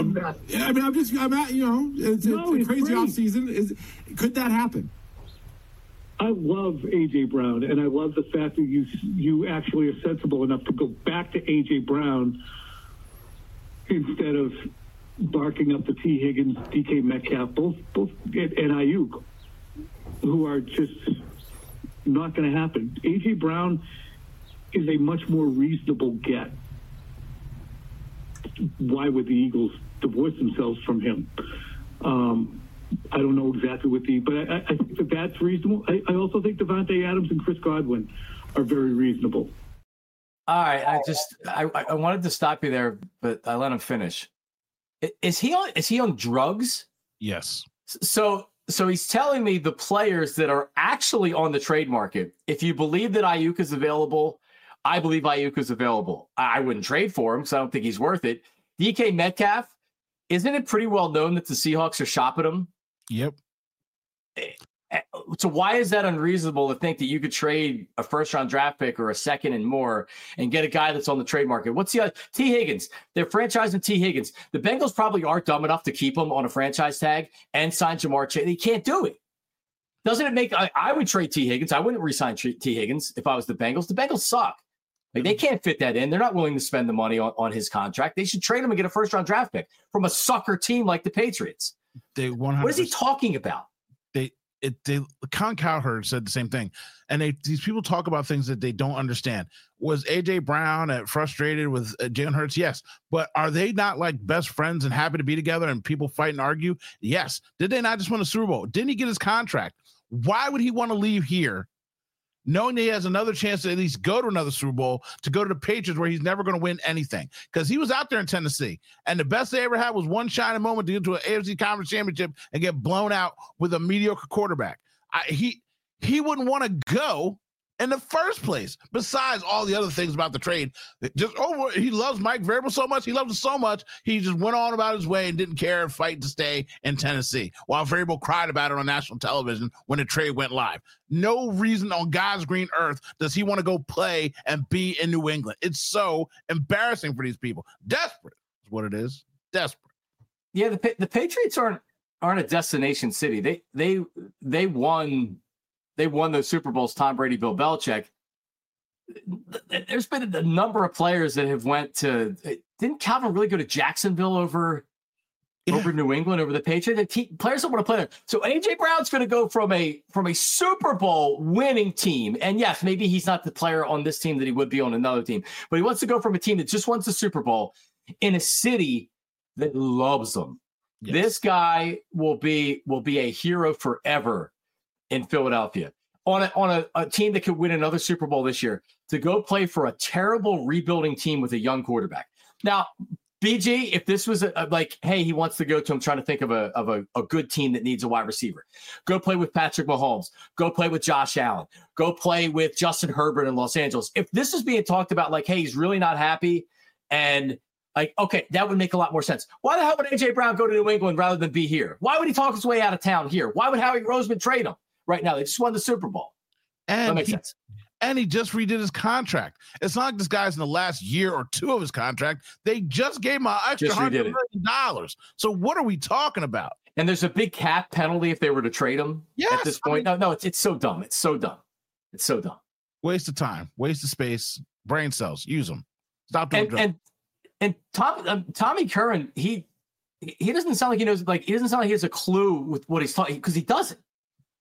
It's a crazy offseason. Could that happen? I love A.J. Brown, and I love the fact that you actually are sensible enough to go back to A.J. Brown instead of barking up the T. Higgins, DK Metcalf, both and Ayuk, who are just not going to happen. A.J. Brown is a much more reasonable get. Why would the Eagles divorce themselves from him? I don't know exactly but I think that's reasonable. I also think Devontae Adams and Chris Godwin are very reasonable. All right. I wanted to stop you there, but I let him finish. Is he on drugs? Yes. So he's telling me the players that are actually on the trade market, if you believe that Ayuk is available, I believe Ayuk is available. I wouldn't trade for him because I don't think he's worth it. DK Metcalf, isn't it pretty well known that the Seahawks are shopping him? Yep. So why is that unreasonable to think that you could trade a first-round draft pick or a second and more and get a guy that's on the trade market? What's the other? T. Higgins. They're franchising T. Higgins. The Bengals probably aren't dumb enough to keep him on a franchise tag and sign Jamar Chase. They can't do it. Doesn't it make – I would trade T. Higgins. I wouldn't re-sign T. Higgins if I was the Bengals. The Bengals suck. Like, they can't fit that in. They're not willing to spend the money on his contract. They should trade him and get a first-round draft pick from a sucker team like the Patriots. What is he talking about? Colin Cowherd said the same thing. And these people talk about things that they don't understand. Was A.J. Brown frustrated with Jalen Hurts? Yes. But are they not like best friends and happy to be together and people fight and argue? Yes. Did they not just win a Super Bowl? Didn't he get his contract? Why would he want to leave here knowing that he has another chance to at least go to another Super Bowl, to go to the Patriots where he's never going to win anything? Because he was out there in Tennessee, and the best they ever had was one shining moment to get to an AFC Conference Championship and get blown out with a mediocre quarterback. He wouldn't want to go in the first place, besides all the other things about the trade. He loves Mike Vrabel so much. He loves it so much. He just went on about his way and didn't care and fight to stay in Tennessee, while Vrabel cried about it on national television when the trade went live. No reason on God's green earth does he want to go play and be in New England. It's so embarrassing for these people. Desperate is what it is. Desperate. Yeah, the Patriots aren't a destination city. They won those Super Bowls, Tom Brady, Bill Belichick. There's been a number of players that have went to – didn't Calvin really go to Jacksonville over New England, over the Patriots? Players don't want to play there. So A.J. Brown's going to go from a Super Bowl winning team. And, yes, maybe he's not the player on this team that he would be on another team. But he wants to go from a team that just wants the Super Bowl in a city that loves him. Yes. This guy will be a hero forever in Philadelphia, on a team that could win another Super Bowl this year, to go play for a terrible rebuilding team with a young quarterback. Now, BG, if this was hey, he wants to go to, I'm trying to think of a good team that needs a wide receiver. Go play with Patrick Mahomes. Go play with Josh Allen. Go play with Justin Herbert in Los Angeles. If this is being talked about like, hey, he's really not happy, and like, okay, that would make a lot more sense. Why the hell would A.J. Brown go to New England rather than be here? Why would he talk his way out of town here? Why would Howie Roseman trade him right now? They just won the Super Bowl. And that makes sense. And he just redid his contract. It's not like this guy's in the last year or two of his contract. They just gave him an extra $100 million. So what are we talking about? And there's a big cap penalty if they were to trade him at this point. No, it's so dumb. It's so dumb. It's so dumb. Waste of time. Waste of space. Brain cells. Use them. Stop doing drugs. And Tommy Curran, he doesn't sound like he knows. Like, he doesn't sound like he has a clue with what he's talking, because he doesn't.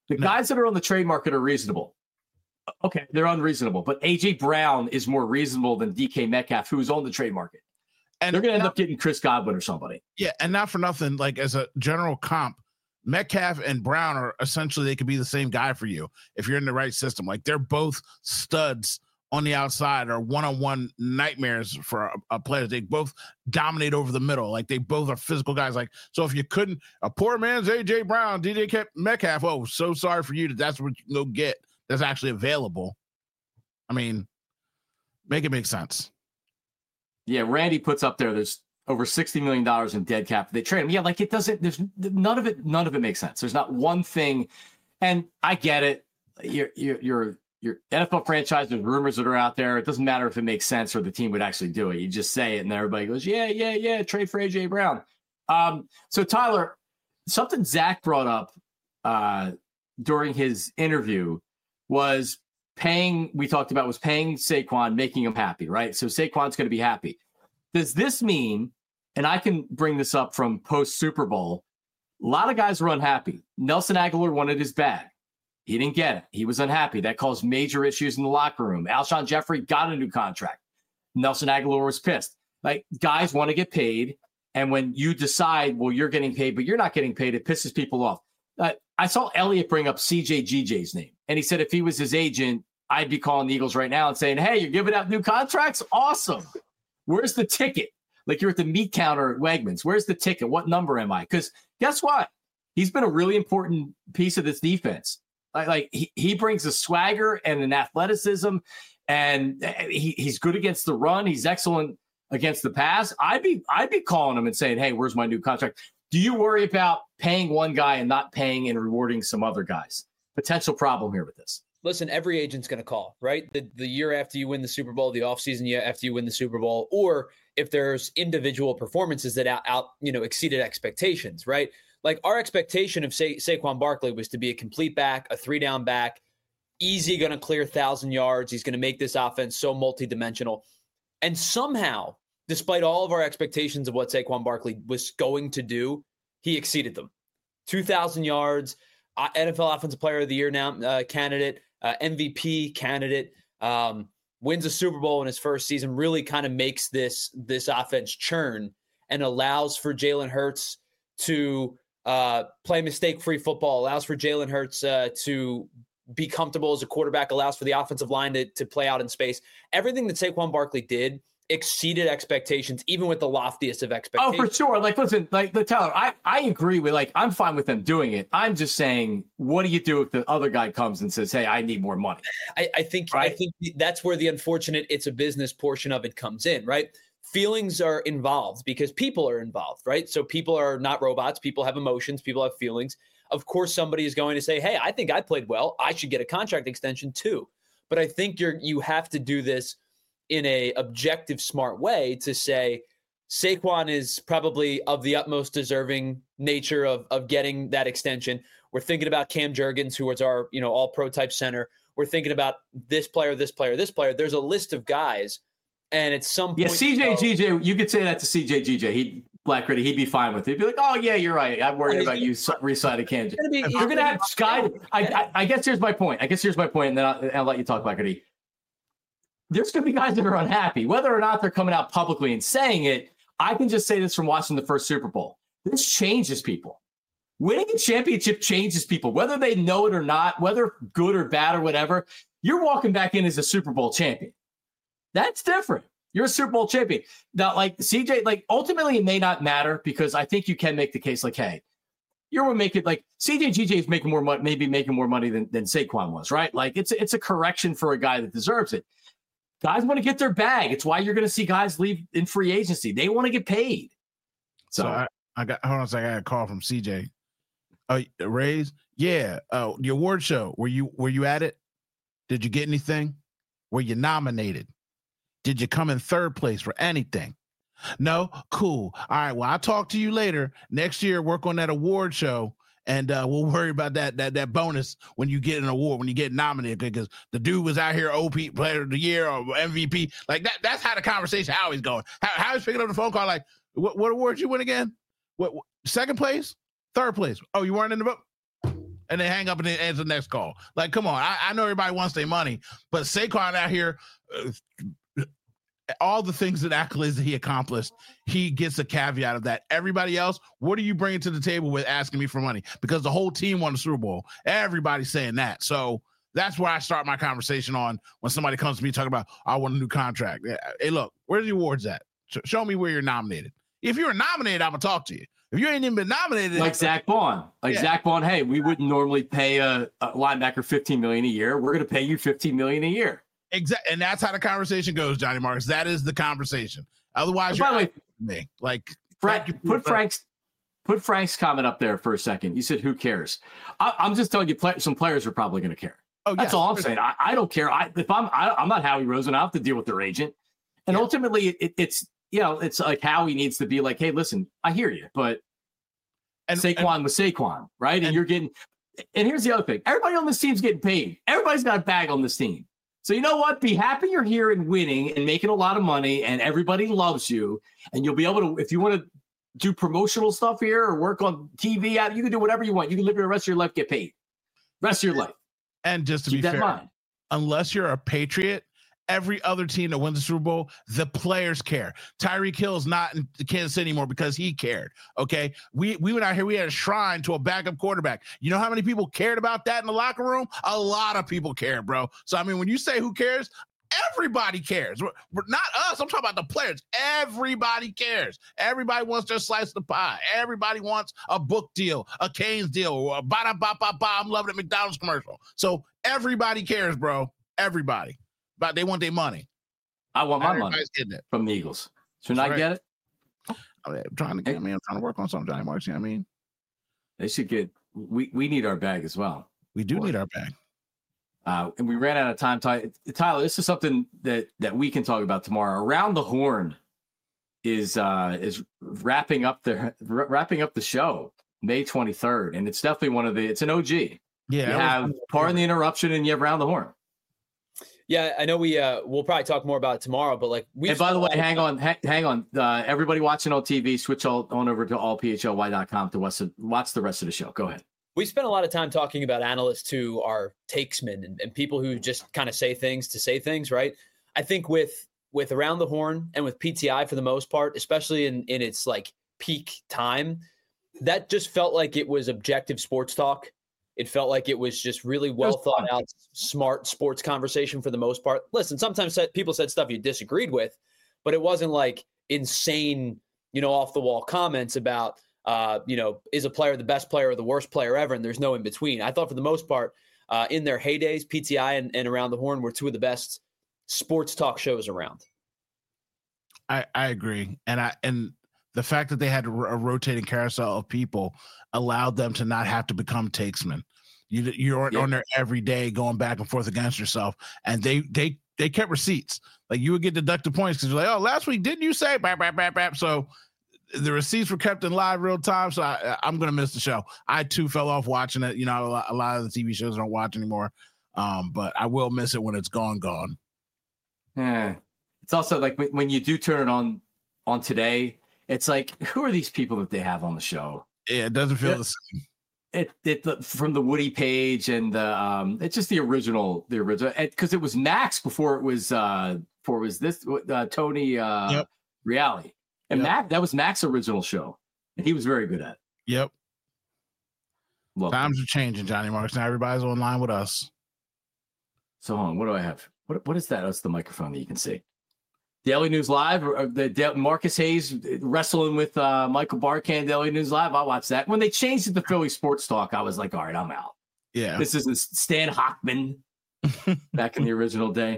The guys that are on the trade market are reasonable. Okay, they're unreasonable, but A.J. Brown is more reasonable than DK Metcalf, who's on the trade market. And they're going to end up getting Chris Godwin or somebody. Yeah, and not for nothing, like as a general comp, Metcalf and Brown are essentially, they could be the same guy for you if you're in the right system. Like they're both studs on the outside or one-on-one nightmares for a player. They both dominate over the middle. Like they both are physical guys. Like, so if you couldn't, a poor man's A.J. Brown, DK Metcalf, oh, so sorry for you that's what you go get that's actually available. I mean, make it make sense. Yeah, Randy puts up there's over $60 million in dead cap. They trade him. Yeah, like it doesn't, there's none of it makes sense. There's not one thing. And I get it. Your NFL franchise, there's rumors that are out there. It doesn't matter if it makes sense or the team would actually do it. You just say it and everybody goes, yeah, trade for A.J. Brown. So Tyler, something Zach brought up during his interview was paying Saquon, making him happy, right? So Saquon's going to be happy. Does this mean, and I can bring this up from post-Super Bowl, a lot of guys were unhappy. Nelson Aguilar wanted his bag. He didn't get it. He was unhappy. That caused major issues in the locker room. Alshon Jeffrey got a new contract. Nelson Aguilar was pissed. Like, guys want to get paid, and when you decide, well, you're getting paid, but you're not getting paid, it pisses people off. I saw Elliott bring up CJGJ's name, and he said if he was his agent, I'd be calling the Eagles right now and saying, hey, you're giving out new contracts? Awesome. Where's the ticket? Like you're at the meat counter at Wegmans. Where's the ticket? What number am I? Because guess what? He's been a really important piece of this defense. Like he brings a swagger and an athleticism, and he's good against the run. He's excellent against the pass. I'd be calling him and saying, hey, where's my new contract? Do you worry about paying one guy and not paying and rewarding some other guys? Potential problem here with this. Listen, every agent's going to call, right? The year after you win the Super Bowl, the offseason year after you win the Super Bowl, or if there's individual performances that exceeded expectations, right? Like our expectation of Saquon Barkley was to be a complete back, a 3-down back, easy going to clear 1,000 yards. He's going to make this offense so multidimensional. And somehow, despite all of our expectations of what Saquon Barkley was going to do, he exceeded them. 2,000 yards, NFL Offensive Player of the Year now candidate, MVP candidate, wins a Super Bowl in his first season, really kind of makes this offense churn and allows for Jalen Hurts to play mistake-free football, allows for Jalen Hurts to be comfortable as a quarterback, allows for the offensive line to play out in space. Everything that Saquon Barkley did exceeded expectations, even with the loftiest of expectations. Oh, for sure. Like, listen, like the Tyler, I agree with, like, I'm fine with them doing it. I'm just saying, what do you do if the other guy comes and says, hey, I need more money? I think that's where the unfortunate, it's a business portion of it comes in, right? Feelings are involved because people are involved, right? So people are not robots. People have emotions. People have feelings. Of course, somebody is going to say, hey, I think I played well. I should get a contract extension too. But I think you have to do this in a objective, smart way to say Saquon is probably of the utmost deserving nature of getting that extension. We're thinking about Cam Jurgens, who is our all pro type center. We're thinking about this player, this player, this player. There's a list of guys, and at some point, yeah, CJGJ, you could say that to CJGJ. He'd be fine with it. He'd be like, oh yeah, you're right. I'm worried about you re-signing Cam. You're gonna have Sky. I guess here's my point. And then I'll let you talk, Blackity. There's going to be guys that are unhappy, whether or not they're coming out publicly and saying it. I can just say this from watching the first Super Bowl. This changes people. Winning a championship changes people, whether they know it or not, whether good or bad or whatever. You're walking back in as a Super Bowl champion. That's different. You're a Super Bowl champion. Now, like CJ, like ultimately it may not matter because I think you can make the case like, hey, you're making like CJGJ is making more money, maybe making more money than Saquon was, right? Like it's a correction for a guy that deserves it. Guys want to get their bag. It's why you're going to see guys leave in free agency. They want to get paid. So I got, hold on a second. I got a call from CJ. Rays. Yeah. The award show. Were you at it? Did you get anything? Were you nominated? Did you come in third place for anything? No? Cool. All right. Well, I'll talk to you later. Next year, work on that award show. And we'll worry about that bonus when you get an award, when you get nominated, because the dude was out here OP Player of the Year or MVP. Like that. That's how the conversation always going. How is picking up the phone call like, what award you win again? What second place? Third place? Oh, you weren't in the vote? and they hang up and they answer the next call. Like, come on. I know everybody wants their money, but Saquon out here, all the things and accolades that he accomplished, he gets a caveat of that. Everybody else, what are you bringing to the table with asking me for money? Because the whole team won the Super Bowl. Everybody's saying that. So that's where I start my conversation on when somebody comes to me talking about, I want a new contract. Hey, look, where's the awards at? Show me where you're nominated. If you're nominated, I'm going to talk to you. If you ain't even been nominated. Like Zach Bond. Zach Bond, hey, we wouldn't normally pay a linebacker $15 million a year. We're going to pay you $15 million a year. Exactly. And that's how the conversation goes, Johnny Marks. That is the conversation. Otherwise, by the way, me. Like, put Frank's comment up there for a second. You said, who cares? I'm just telling you, some players are probably going to care. Oh, that's all I'm saying. I don't care. I'm not Howie Roseman. I have to deal with their agent. And ultimately, it's it's like Howie needs to be like, hey, listen, I hear you, but Saquon was Saquon, right? And you're getting. And here's the other thing: everybody on this team's getting paid. Everybody's got a bag on this team. So you know what? Be happy you're here and winning and making a lot of money, and everybody loves you. And you'll be able to, if you want to do promotional stuff here or work on TV, you can do whatever you want. You can live the rest of your life, get paid. Rest of your life. And just to be fair, unless you're a Patriot, every other team that wins the Super Bowl, the players care. Tyreek Hill's not in Kansas City anymore because he cared. Okay. We went out here, we had a shrine to a backup quarterback. You know how many people cared about that in the locker room? A lot of people cared, bro. So, I mean, when you say who cares, everybody cares. We're not us. I'm talking about the players. Everybody cares. Everybody wants their slice of the pie. Everybody wants a book deal, a Canes deal, or a ba-da-ba-ba-ba, I'm loving it McDonald's commercial. So everybody cares, bro. Everybody. But they want their money. I want my money from the Eagles. Should I get it? I'm trying to work on something, Johnny Marks. You know what I mean? They should get. We need our bag as well. We do need our bag. And we ran out of time. Tyler, this is something that we can talk about tomorrow. Around the Horn is wrapping up the show May 23rd, and it's definitely it's an OG. Yeah, you have Pardon the Interruption, and you have Around the Horn. Yeah, I know we'll probably talk more about it tomorrow, but like and by the way, hang on. Everybody watching on TV, switch on over to allphly.com to watch the rest of the show. Go ahead. We spent a lot of time talking about analysts who are takesmen and people who just kind of say things to say things, right? I think with Around the Horn and with PTI for the most part, especially in its like peak time, that just felt like it was objective sports talk. It felt like it was just really well thought out, smart sports conversation for the most part. Listen, sometimes people said stuff you disagreed with, but it wasn't like insane, off the wall comments about, is a player the best player or the worst player ever? And there's no in between. I thought for the most part, in their heydays, PTI and Around the Horn were two of the best sports talk shows around. I agree. And the fact that they had a rotating carousel of people allowed them to not have to become takesmen. You aren't on there every day going back and forth against yourself. And they kept receipts. Like you would get deducted points because you're like, oh, last week, didn't you say? Bap, bap, bap, bap. So the receipts were kept in live real time. So I'm going to miss the show. I too fell off watching it. A lot of the TV shows I don't watch anymore. But I will miss it when it's gone. Yeah. It's also like when you do turn it on today, it's like, who are these people that they have on the show? Yeah, it doesn't feel the same. It from the Woody Page and the it's just the original because it was Max before it was this Tony Reali, and Max, that was Max's original show, and he was very good at it. Yep. Times are changing, Johnny Marks. Now everybody's online with us. So hold on, what do I have? What is that? That's the microphone that you can see. Daily News Live, or Marcus Hayes wrestling with Michael Barkan, Daily News Live. I'll watch that. When they changed it to Philly Sports Talk, I was like, all right, I'm out. Yeah. This isn't Stan Hochman back in the original day.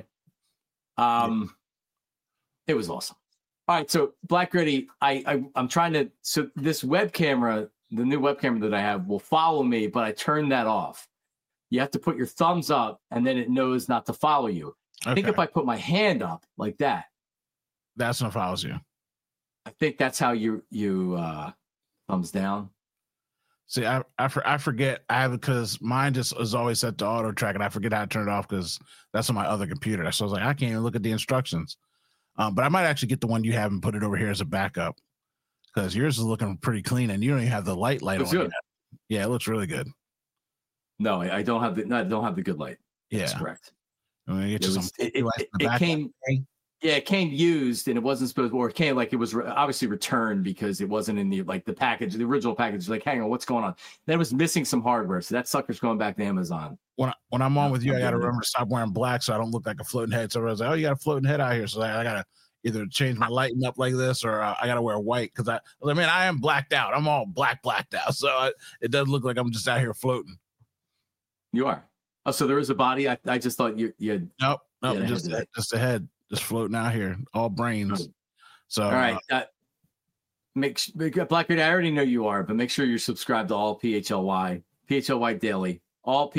It was awesome. All right, so Black Gritty, I'm trying to, so this web camera, the new web camera that I have will follow me, but I turned that off. You have to put your thumbs up and then it knows not to follow you. I think if I put my hand up like that, that's what follows you. I think that's how you thumbs down. See, I forget. I have because mine just is always set to auto track, and I forget how to turn it off because that's on my other computer. So I was like, I can't even look at the instructions. But I might actually get the one you have and put it over here as a backup because yours is looking pretty clean, and you don't even have the light on. Good. Yeah, it looks really good. No, I don't have the. No, I don't have the good light. Yeah, that's correct. It came. Yeah, it came used, and it wasn't supposed to, or it came like it was obviously returned because it wasn't in the package, the original package. Like, hang on, what's going on? Then it was missing some hardware, so that sucker's going back to Amazon. When I'm on with you, I got to remember to stop wearing black so I don't look like a floating head. So I was like, oh, you got a floating head out here, so I got to either change my lighting up like this, or I got to wear white because I am blacked out. I'm all blacked out, so it does look like I'm just out here floating. You are. Oh, so there is a body. I just thought you had. Nope, just a head. Just floating out here, all brains. So, all right. Blackbeard, I already know you are, but make sure you're subscribed to all PHLY Daily, all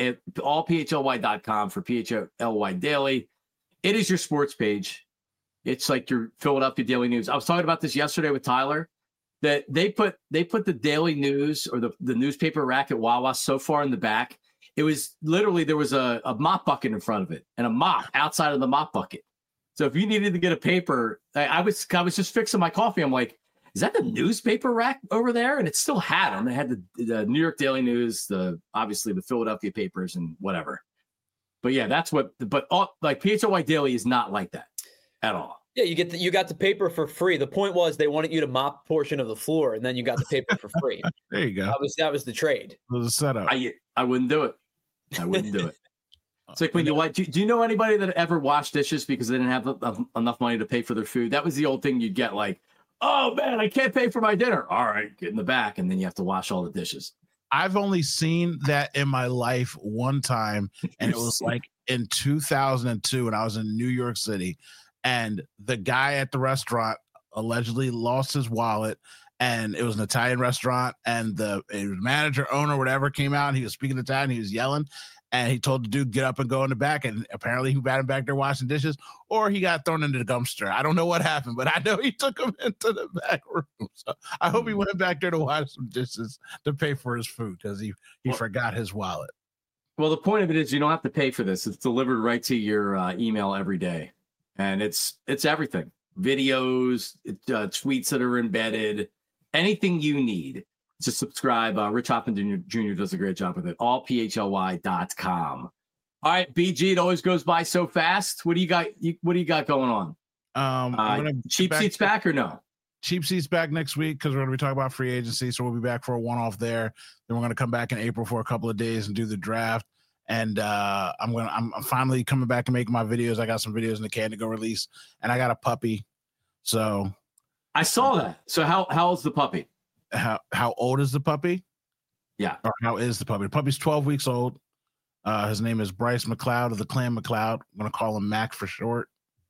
PHLY.com for PHLY Daily. It is your sports page. It's like your Philadelphia Daily News. I was talking about this yesterday with Tyler, that they put the Daily News or the newspaper rack at Wawa so far in the back. It was literally, there was a mop bucket in front of it and a mop outside of the mop bucket. So if you needed to get a paper, I was just fixing my coffee. I'm like, is that the newspaper rack over there? And it still had them. They had the New York Daily News, obviously the Philadelphia papers and whatever. But yeah, that's what. But PHLY Daily is not like that at all. Yeah, you got the paper for free. The point was they wanted you to mop a portion of the floor, and then you got the paper for free. There you go. That was the trade. It was a setup. I wouldn't do it. I wouldn't do it. It's like when do you know anybody that ever washed dishes because they didn't have enough money to pay for their food? That was the old thing you'd get, like, oh man, I can't pay for my dinner. All right, get in the back, and then you have to wash all the dishes. I've only seen that in my life one time, and it was like in 2002 when I was in New York City, and the guy at the restaurant allegedly lost his wallet, and it was an Italian restaurant, and the manager, owner, whatever, came out, and he was speaking Italian, he was yelling. And he told the dude, get up and go in the back. And apparently he got him back there washing dishes, or he got thrown into the dumpster. I don't know what happened, but I know he took him into the back room. So I hope he went back there to wash some dishes to pay for his food because he forgot his wallet. Well, the point of it is you don't have to pay for this. It's delivered right to your email every day. And it's everything. Videos, tweets that are embedded, anything you need. To subscribe. Rich Hoffman Jr. does a great job with it. AllphlY.com. All right, BG, it always goes by so fast. What do you got? What do you got going on? Cheap Seats back or no? Cheap Seats back next week because we're going to be talking about free agency. So we'll be back for a one-off there. Then we're going to come back in April for a couple of days and do the draft. And I'm finally coming back and making my videos. I got some videos in the can to go release, and I got a puppy. So I saw that. So how old's the puppy? How old is the puppy? Yeah. Or how is the puppy? The puppy's 12 weeks old. His name is Bryce McLeod of the Clan McLeod. I'm going to call him Mac for short.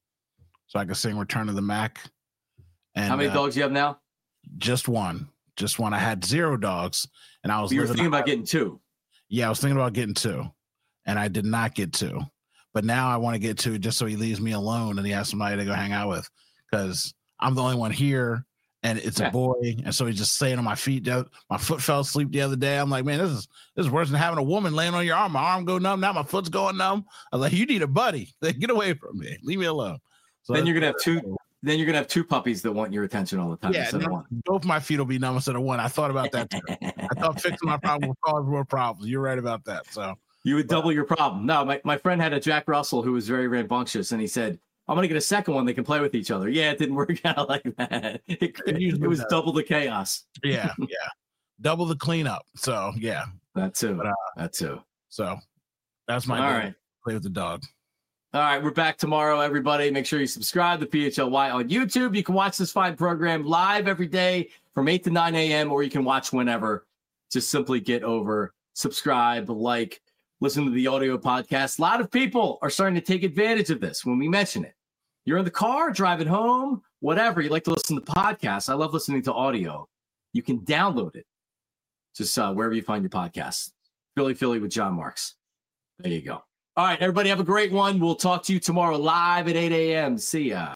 So I can sing Return of the Mac. And how many dogs do you have now? Just one. I had 0 dogs. And I was thinking about getting 2. Yeah, I was thinking about getting 2. And I did not get 2. But now I want to get 2 just so he leaves me alone and he has somebody to go hang out with. Because I'm the only one here. And it's a boy, and so he's just staying on my feet. My foot fell asleep the other day. I'm like, man, this is worse than having a woman laying on your arm. My arm go numb. Now my foot's going numb. I was like, you need a buddy. Get away from me. Leave me alone. So then you're gonna have 2. Then you're gonna have 2 puppies that want your attention all the time. Yeah, both my feet will be numb instead of one. I thought about that too. I thought fixing my problem would cause more problems. You're right about that. So you would double your problem. No, my friend had a Jack Russell who was very rambunctious, and he said, I'm going to get a second one. They can play with each other. Yeah, it didn't work out like that. It was double the chaos. Yeah. Double the cleanup. So, yeah. That too. That too. So, that's my all right. Play with the dog. All right. We're back tomorrow, everybody. Make sure you subscribe to PHLY on YouTube. You can watch this fine program live every day from 8 to 9 a.m., or you can watch whenever. Just simply get over, subscribe, like, listen to the audio podcast. A lot of people are starting to take advantage of this when we mention it. You're in the car, driving home, whatever. You like to listen to podcasts. I love listening to audio. You can download it just wherever you find your podcasts. Philly with John Marks. There you go. All right, everybody have a great one. We'll talk to you tomorrow live at 8 a.m. See ya.